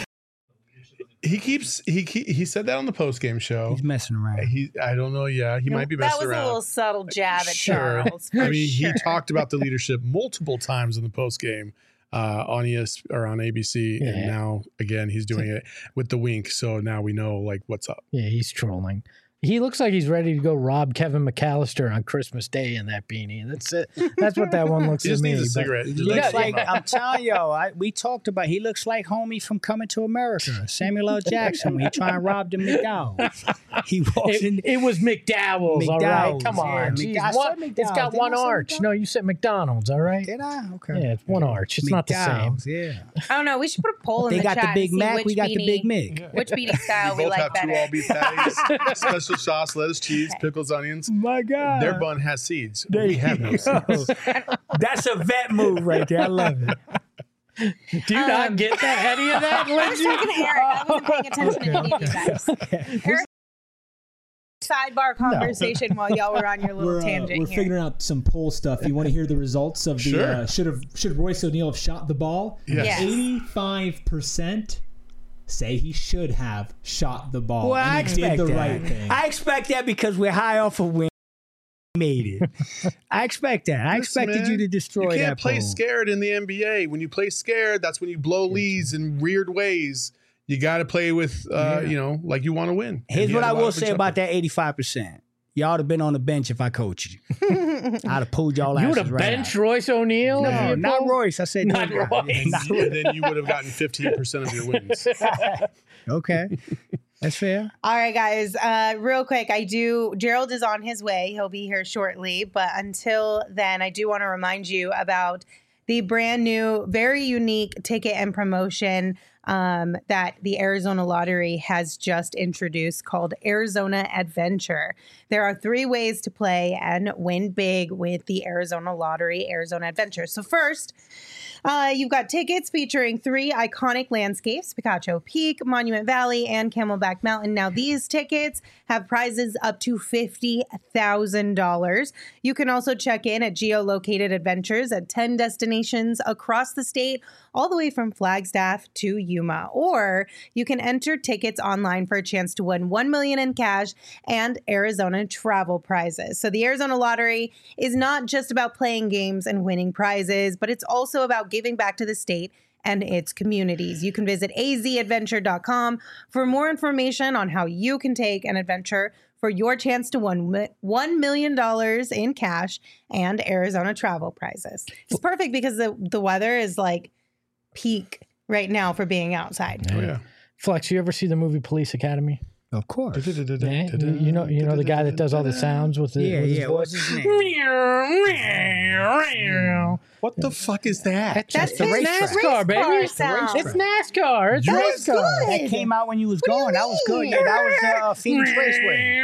He keeps he he, he said that on the post game show. He's messing around. He I don't know. Yeah, he might be That messing was around. a little subtle jab at Sure. Charles. for I mean, sure. he talked about the leadership multiple times in the post game uh, on E S or on A B C, and Yeah. now again he's doing it with the wink. So now we know like what's up. Yeah, he's trolling. He looks like he's ready to go rob Kevin McAllister on Christmas Day in that beanie. That's it. That's what that one looks He to just me. needs a but- cigarette. Just He like looks smoke. like I'm telling y'all. I, we talked about. He looks like homie from Coming to America, Samuel L. Jackson. When he trying to rob the McDowell's. He walks in. It, it was McDowell's, all right. McDowell's, Come yeah. on, Mc- Jeez, I said one- McDowell's. it's got Didn't one I say arch. McDonald's? No, you said McDonald's, all right. Did I? Okay. Yeah, it's one arch. It's not the same. McDowell's, Yeah. I don't know. We should put a poll in They the got chat the Big to see Mac. which We got the beanie, Big Mick. which beanie style we both like have two better. all beef patties, special sauce, lettuce, cheese, pickles, onions. My God. Their bun has seeds. There we you have no go. seeds. That's a vet move right there. I love it. Do you not Um, get that, any of that, I was Lindsay? talking to Eric. I wasn't paying attention to any of you guys. Eric, sidebar conversation while y'all were on your little We're, uh, tangent we're here. figuring out some poll stuff. You want to hear the results of the Sure. uh, should have should Royce O'Neal have shot the ball? Yes. Yes. eighty-five percent say he should have shot the ball. Well, I and he expect did the that. right thing. I expect that because we're high off of win. Made it. I expect that. I Listen, expected man, you to destroy You that. can't play poll. scared in the N B A. When you play scared, that's when you blow leads in weird ways. You got to play with, uh, Yeah. you know, like you want to win. And Here's he what had I a lot will of say good about jumpers. that eighty-five percent. Y'all would have been on the bench if I coached you. I'd have pulled y'all You asses would have right benched out. Royce O'Neal? if No, you not pulled? Royce. I said Not no. Royce. Not And then you would have gotten fifteen percent of your wins. Okay. That's fair. All right, guys. Uh, real quick, I do. Gerald is on his way. He'll be here shortly. But until then, I do want to remind you about the brand new, very unique ticket and promotion um, that the Arizona Lottery has just introduced called Arizona Adventure. There are three ways to play and win big with the Arizona Lottery, Arizona Adventure. So first, uh, you've got tickets featuring three iconic landscapes, Picacho Peak, Monument Valley, and Camelback Mountain. Now, these tickets have prizes up to fifty thousand dollars. You can also check in at geolocated adventures at ten destinations across the state, all the way from Flagstaff to Yuma. Or you can enter tickets online for a chance to win one million dollars in cash and Arizona travel prizes. So the Arizona Lottery is not just about playing games and winning prizes, but it's also about giving back to the state and its communities. You can visit a z adventure dot com for more information on how you can take an adventure for your chance to win one million dollars in cash and Arizona travel prizes. It's perfect because the, the weather is like peak right now for being outside. Oh, yeah. Flex, you ever see the movie Police Academy? Of course. Yeah, you, you know, you know the guy that does all the sounds with the Yeah, with his yeah. voice? What's his name? What the fuck is that? That's the his NASCAR, race car baby. sound. It's NASCAR. It's That race was car. good. That came out when you was What do you gone. That was good. mean? Yeah, that was uh, Phoenix Raceway.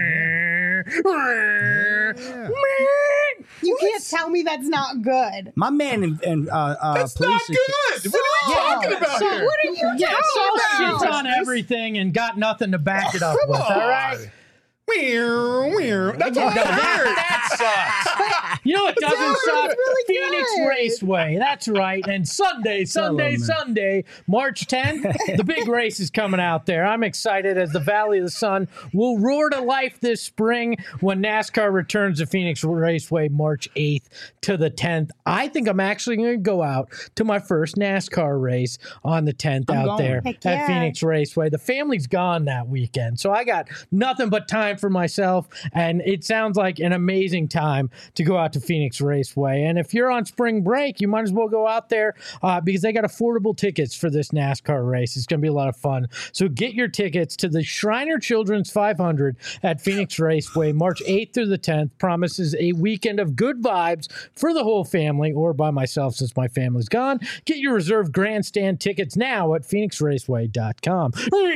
You can't tell me that's not good. My man and, and uh, uh, That's police. not good. What are you talking about So here? what are you Yeah, Saul talking shits about? on everything and got nothing to back it up Come with. on. All right. Weird, weird. That's No, what I heard. that, that sucks. You know what doesn't was suck? really Phoenix good. Raceway. That's right. And Sunday, Sunday, man. Sunday, March tenth, the big race is coming out there. I'm excited as the Valley of the Sun will roar to life this spring when NASCAR returns to Phoenix Raceway March eighth to the tenth. I think I'm actually going to go out to my first NASCAR race on the tenth I'm out going. there Heck at yeah. Phoenix Raceway. The family's gone that weekend, so I got nothing but time for myself, and it sounds like an amazing time to go out to Phoenix Raceway. And if you're on spring break, you might as well go out there uh, because they got affordable tickets for this NASCAR race. It's going to be a lot of fun. So get your tickets to the Shriner Children's five hundred at Phoenix Raceway, March eighth through the tenth. Promises a weekend of good vibes for the whole family, or by myself since my family's gone. Get your reserved grandstand tickets now at phoenix raceway dot com.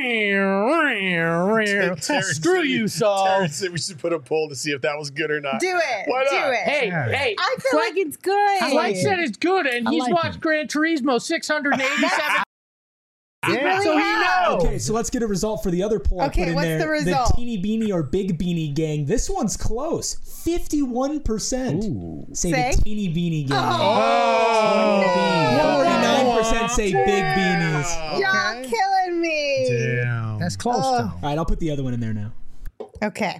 Screw you, Saul. Terrence said we should put a poll to see if that was good or not. Do it. Why not? Do it. Hey, hey. I feel like it's good. Flex said it's good, and I he's like watched it. Gran Turismo six hundred eighty-seven. really so he have. knows. Okay, so let's get a result for the other poll I Okay, put in what's there. the result? teeny beanie or big beanie gang. This one's close. fifty-one percent say Say? the teeny beanie gang. Oh. forty-nine percent say big beanies. Y'all killing me. Damn. That's close, Oh. though. All right, I'll put the other one in there now. Okay.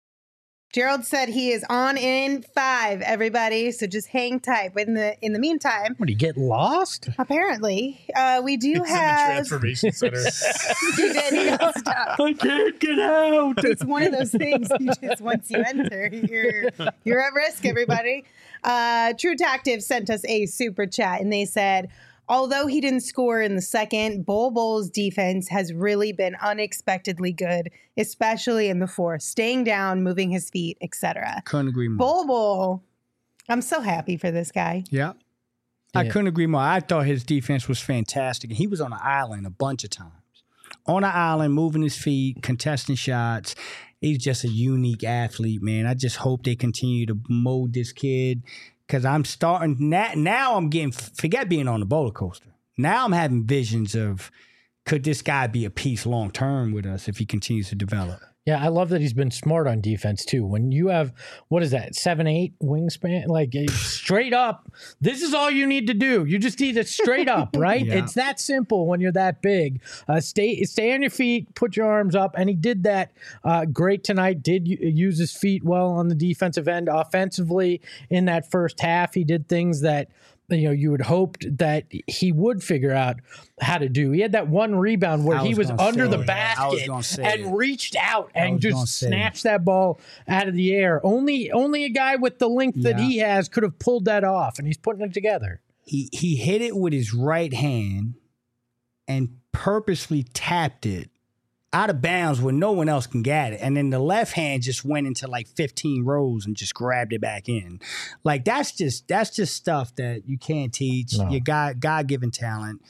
Gerald said he is on in five, everybody. So just hang tight. But in the in the meantime, What, do you get lost? apparently, uh, we do He's in the have. transformation center. He did. He got stuck. I can't get out. It's one of those things. You just once you enter, you're you're at risk. Everybody. Uh, True Tactive sent us a super chat, and they said, although he didn't score in the second, Bol Bol's defense has really been unexpectedly good, especially in the fourth, staying down, moving his feet, et cetera. Couldn't agree more. Bol Bol, I'm so happy for this guy. Yeah. I Yeah. couldn't agree more. I thought his defense was fantastic. And he was on the island a bunch of times. On the island, moving his feet, contesting shots. He's just a unique athlete, man. I just hope they continue to mold this kid because I'm starting now. Now I'm getting, forget being on the roller coaster. Now I'm having visions of could this guy be a piece long term with us if he continues to develop? Yeah, I love that he's been smart on defense too. When you have, what is that, seven, eight wingspan, like eh, straight up, this is all you need to do. You just need it straight up, right? Yeah. It's that simple when you're that big. Uh, stay stay on your feet, put your arms up, and he did that uh, great tonight. Did u- use his feet well on the defensive end. Offensively, in that first half, he did things that, you know, you would hoped that he would figure out how to do. He had that one rebound where I he was was gonna under say the it. I was basket gonna say and it. reached out I and was gonna just say it. snatched that ball out of the air. Only only a guy with the length that Yeah. he has could have pulled that off, and he's putting it together. He he hit it with his right hand and purposely tapped it out of bounds where no one else can get it. And then the left hand just went into like fifteen rows and just grabbed it back in. Like that's just that's just stuff that you can't teach. No. You got God given talent.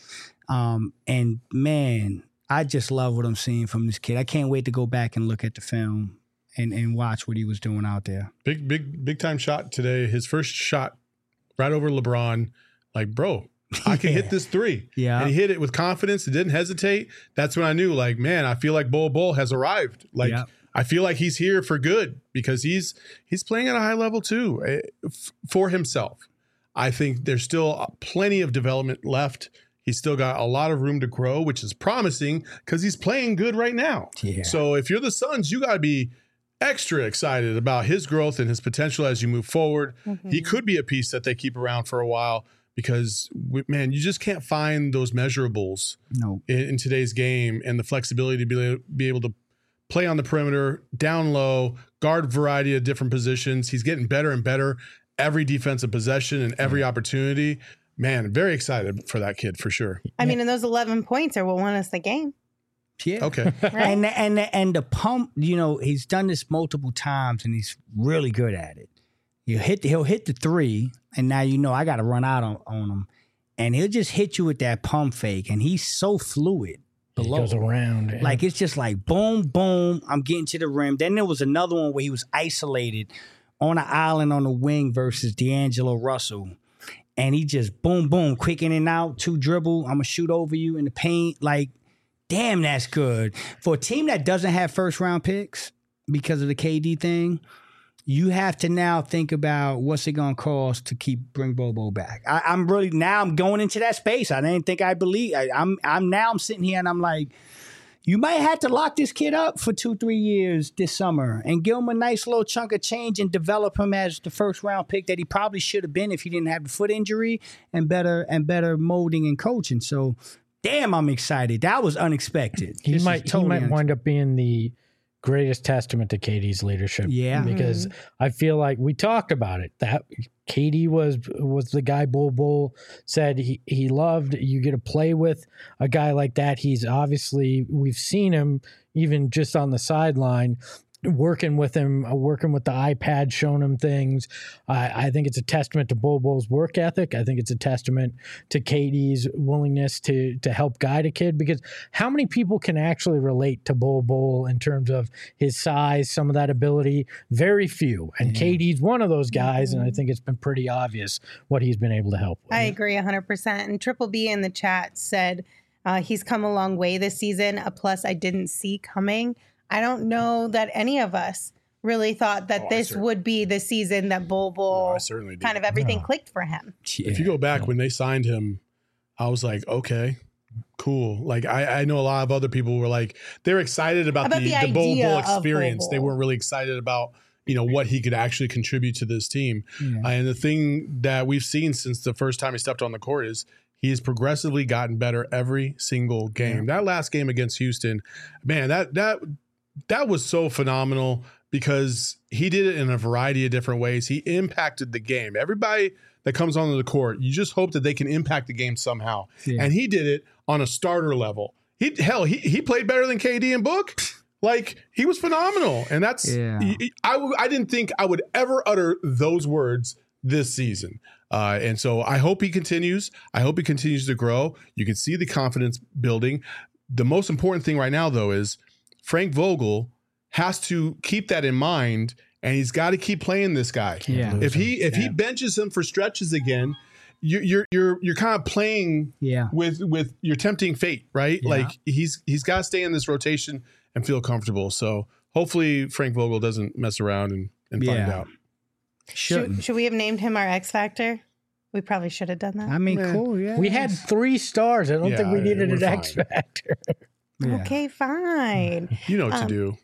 Um, and man, I just love what I'm seeing from this kid. I can't wait to go back and look at the film and, and watch what he was doing out there. Big, big, big time shot today. His first shot right over LeBron. Like, bro, I can Yeah. hit this three. Yeah. And he hit it with confidence. It didn't hesitate. That's when I knew, like, man, I feel like Bol Bol has arrived. Like, Yeah. I feel like he's here for good because he's he's playing at a high level too eh, f- for himself. I think there's still plenty of development left. He's still got a lot of room to grow, which is promising because he's playing good right now. Yeah. So if you're the Suns, you got to be extra excited about his growth and his potential as you move forward. Mm-hmm. He could be a piece that they keep around for a while because, we, man, you just can't find those measurables No. in, in today's game and the flexibility to be, be able to play on the perimeter, down low, guard variety of different positions. He's getting better and better every defensive possession and every opportunity. Man, very excited for that kid for sure. I mean, and those eleven points are what won us the game. Yeah. Okay. Right? And and and the pump, you know, he's done this multiple times and he's really good at it. You hit, he'll hit the three, and now you know I got to run out on, on him, and he'll just hit you with that pump fake, and he's so fluid. He below. goes around. yeah. Like it's just like boom, boom. I'm getting to the rim. Then there was another one where he was isolated on an island on the wing versus D'Angelo Russell, and he just boom, boom, quick in and out, two dribble. I'm gonna shoot over you in the paint. Like, damn, that's good for a team that doesn't have first round picks because of the K D thing. You have to now think about what's it gonna cost to keep bring Bobo back. I, I'm really now I'm going into that space. I didn't think I believe. I, I'm I'm now I'm sitting here and I'm like, you might have to lock this kid up for two three years this summer and give him a nice little chunk of change and develop him as the first round pick that he probably should have been if he didn't have the foot injury and better and better molding and coaching. So, damn, I'm excited. That was unexpected. he This is might totally he might wind up being the greatest testament to K D's leadership. Yeah. because I feel like we talked about it. That K D was was the guy Bol Bol said he he loved. You get to play with a guy like that. He's obviously we've seen him even just on the sideline. Working with him, uh, working with the iPad, showing him things. I I think it's a testament to Bol Bol's work ethic. I think it's a testament to K D's willingness to to help guide a kid. Because how many people can actually relate to Bol Bol in terms of his size, some of that ability? Very few. And Yeah. K D's one of those guys, and I think it's been pretty obvious what he's been able to help with. I agree one hundred percent. And Triple B in the chat said uh, he's come a long way this season, a plus I didn't see coming. I don't know that any of us really thought that Oh, I this cer- would be the season that Bol No, Bol I certainly did. kind of everything No. clicked for him. If you go back when they signed him, I was like, okay, cool. Like I, I know a lot of other people were like, they're excited about, About the, the the Bol idea Bol of Bol experience. They Bol. weren't really excited about, you know, what he could actually contribute to this team. Yeah. Uh, and the thing that we've seen since the first time he stepped on the court is he has progressively gotten better every single game. That last game against Houston, man, that that that was so phenomenal because he did it in a variety of different ways. He impacted the game. Everybody that comes onto the court, you just hope that they can impact the game somehow. Yeah. And he did it on a starter level. He hell, he he played better than K D and Book. Like he was phenomenal. And that's Yeah. I I w- I didn't think I would ever utter those words this season. Uh, and so I hope he continues. I hope he continues to grow. You can see the confidence building. The most important thing right now, though, is Frank Vogel has to keep that in mind, and he's got to keep playing this guy. Yeah. If he if he Yeah. benches him for stretches again, you're you're you're you're kind of playing Yeah. with with your tempting fate, right? Yeah. Like he's he's got to stay in this rotation and feel comfortable. So hopefully Frank Vogel doesn't mess around and, and find Yeah. out. Shouldn't. Should, should we have named him our X Factor? We probably should have done that. I mean, Yeah. cool. Yeah. We had three stars. I don't Yeah, think we needed we're an fine. X factor. Yeah. Okay, fine. You know what Um, to do.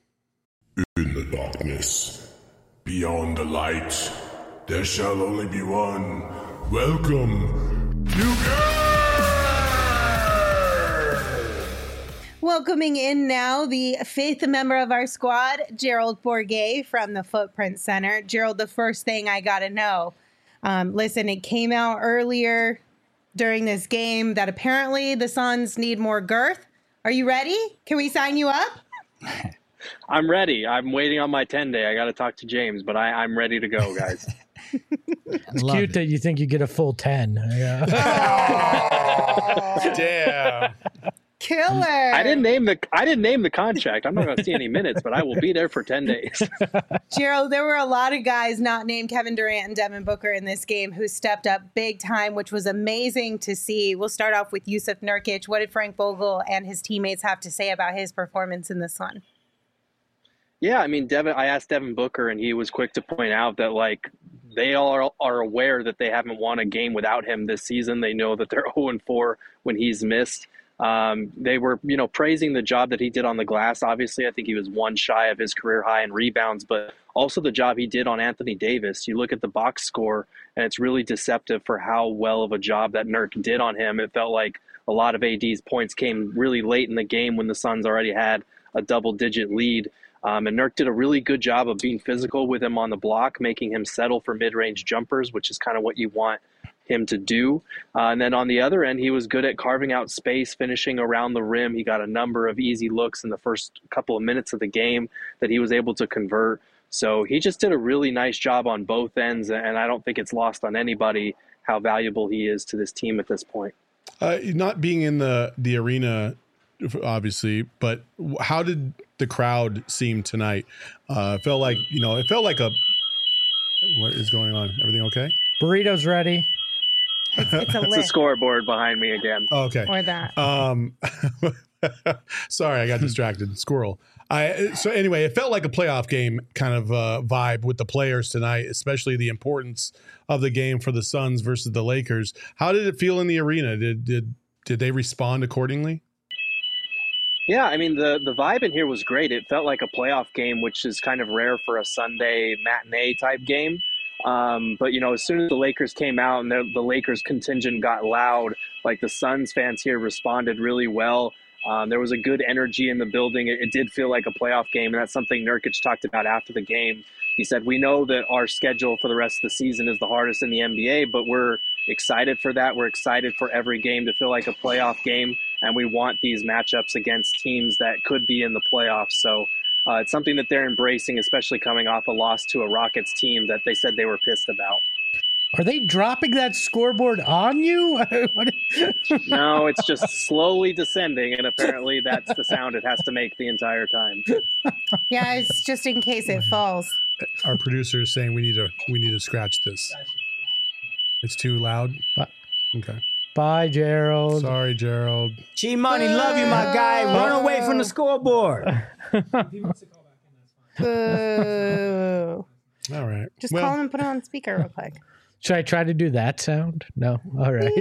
In the darkness, beyond the light, there shall only be one. Welcome to Welcoming in now the fifth member of our squad, Gerald Bourget from the Footprint Center. Gerald, the first thing I got to know, um, listen, it came out earlier during this game that apparently the Suns need more girth. Are you ready? Can we sign you up? I'm ready. I'm waiting on my ten day. I got to talk to James, but I, I'm ready to go, guys. It's Love cute it. that you think you get a full ten. Yeah. Oh, damn. Killer. I didn't name the I didn't name the contract. I'm not going to see any minutes, but I will be there for ten days. Gerald, there were a lot of guys not named Kevin Durant and Devin Booker in this game who stepped up big time, which was amazing to see. We'll start off with Yusuf Nurkic. What did Frank Vogel and his teammates have to say about his performance in this one? Yeah, I mean, Devin. I asked Devin Booker, and he was quick to point out that like they all are, are aware that they haven't won a game without him this season. They know that they're oh and four when he's missed. Um, they were, you know, praising the job that he did on the glass. Obviously, I think he was one shy of his career high in rebounds, but also the job he did on Anthony Davis. You look at the box score, and it's really deceptive for how well of a job that Nurk did on him. It felt like a lot of A D's points came really late in the game when the Suns already had a double-digit lead. Um, and Nurk did a really good job of being physical with him on the block, making him settle for mid-range jumpers, which is kind of what you want him to do. Uh, and then on the other end, he was good at carving out space, finishing around the rim. He got a number of easy looks in the first couple of minutes of the game that he was able to convert. So he just did a really nice job on both ends, and I don't think it's lost on anybody how valuable he is to this team at this point. Uh, not being in the, the arena, obviously, but how did the crowd seem tonight? Uh, it felt like, you know, it felt like a, what is going on? Everything okay? Burrito's ready. It's, it's a It's a scoreboard behind me again. Oh, okay. Or that. Um, sorry, I got distracted. Squirrel. I so anyway, it felt like a playoff game kind of uh, vibe with the players tonight, especially the importance of the game for the Suns versus the Lakers. How did it feel in the arena? Did did did they respond accordingly? Yeah, I mean, the, the vibe in here was great. It felt like a playoff game, which is kind of rare for a Sunday matinee type game. Um, but, you know, as soon as the Lakers came out and the, the Lakers contingent got loud, like the Suns fans here responded really well. Um, there was a good energy in the building. It, it did feel like a playoff game, and that's something Nurkic talked about after the game. He said, we know that our schedule for the rest of the season is the hardest in the N B A, but we're excited for that. We're excited for every game to feel like a playoff game, and we want these matchups against teams that could be in the playoffs. So uh, it's something that they're embracing, especially coming off a loss to a Rockets team that they said they were pissed about. Are they dropping that scoreboard on you? No, it's just slowly descending, and apparently that's the sound it has to make the entire time. Yeah, it's just in case it falls. Our producer is saying we need to we need to scratch this. It's too loud. Okay. Bye, Gerald. Sorry, Gerald. G Money, love you, my guy. Run away from the scoreboard. Boo. All right. Just Well- call him and put it on speaker real quick. Should I try to do that sound? No. All right.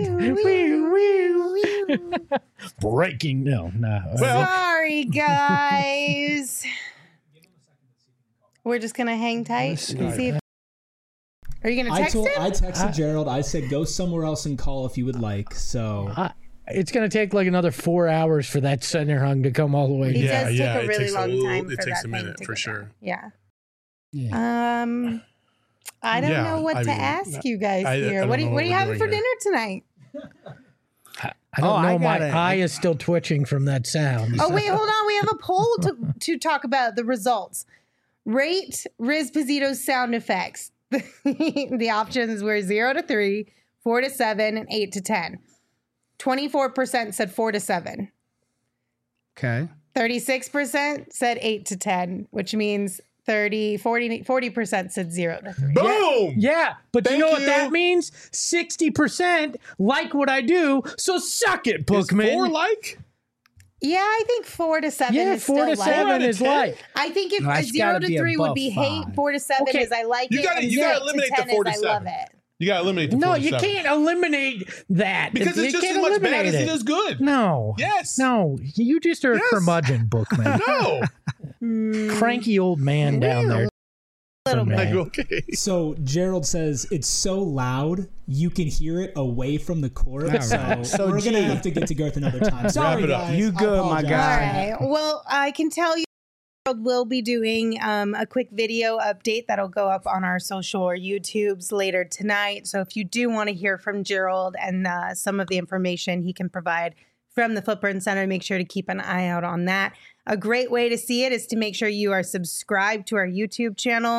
Breaking. No, no. Sorry, guys. We're just gonna hang tight and see if. Are you gonna I text told, him? I texted I- Gerald. I said, go somewhere else and call if you would like. So I, it's going to take like another four hours for that center hung to come all the way It down. does take yeah, a it really takes a long little- time. it for takes that a thing minute, to for go sure. down. Yeah. Yeah. Um, I don't Yeah, know what I to mean, ask you guys I- I here. don't What do you, know what are you what we're having for doing dinner tonight? I don't Oh, know. I My gotta- eye is still twitching from that sound. Oh wait, hold on. We have a poll to to talk about the results. Rate Riz Pizzito's sound effects. The options were zero to three, four to seven, and eight to ten. Twenty-four percent said four to seven. Okay. Thirty-six percent said eight to ten, which means thirty, forty, forty percent said zero to three. Boom! Yeah, but Thank you know what you. that means? sixty percent like what I do, so suck it, Is Bookman. four like? Yeah, I think four to seven yeah, is four still to like. seven is like. I think if No, a it's zero gotta to be three would above be hate, five. four to seven Okay. is I like You it. gotta- and you gotta eight eliminate to the ten four is to I love seven. it. You got to eliminate the No, four to you seven. can't eliminate that. Because You it's just can't as much bad eliminate as it is good. No. Yes. No, you just are Yes. a curmudgeon, Bookman. No. Cranky old man down there. Little bit. Like, okay. So Gerald says it's so loud you can hear it away from the court. All So, right. So, we're G. gonna have to get to Garth another time. Sorry, it up. guys. You I good, my apologize. guy. All right. Well, I can tell you we'll be doing um, a quick video update that'll go up on our social or YouTubes later tonight. So if you do want to hear from Gerald and uh, some of the information he can provide from the Footprint Center, make sure to keep an eye out on that. A great way to see it is to make sure you are subscribed to our YouTube channel.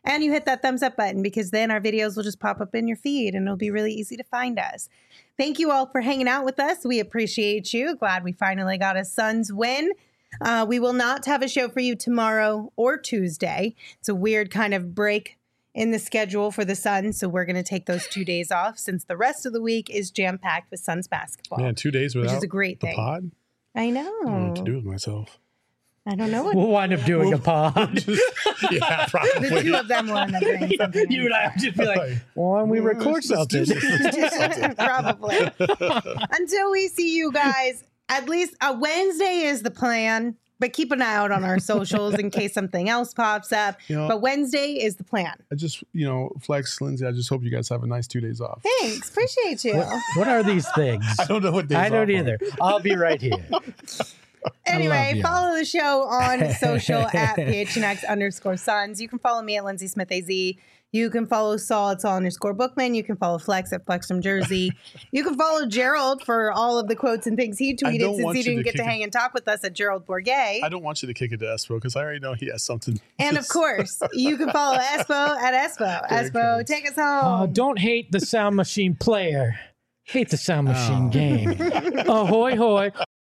And you hit that thumbs up button because then our videos will just pop up in your feed and it'll be really easy to find us. Thank you all for hanging out with us. We appreciate you. Glad we finally got a Suns win. Uh, we will not have a show for you tomorrow or Tuesday. It's a weird kind of break in the schedule for the Suns, so we're going to take those two days off since the rest of the week is jam-packed with Suns basketball. Man, two days without which is a great the thing. pod? I I don't know what know. to do with myself. I don't know what We'll wind up doing a pod. Yeah, the probably. two of them will end up doing something. You and I would just be like, why don't we record something? Probably. Until we see you guys, at least a Wednesday is the plan. But keep an eye out on our socials in case something else pops up. You know, But Wednesday is the plan. I just, you know, Flex, Lindsay, I just hope you guys have a nice two days off. Thanks. Appreciate you. What, what are these things? I don't know what days I don't off are. either. I'll be right here. Anyway, y'all. follow the show on social at P H N X underscore Suns. You can follow me at Lindsay Smith A Z. You can follow Saul at Saul underscore Bookman. You can follow Flex at Flex from Jersey. You can follow Gerald for all of the quotes and things he tweeted don't since want he you didn't to get to kick it. hang and talk with us at Gerald Bourget. I don't want you to kick it to Espo because I already know he has something. And of Just- course, you can follow Espo at Espo. There it Espo, comes. take us home. Oh, don't hate the sound machine player. Hate the sound machine Oh. game. Ahoy, hoy.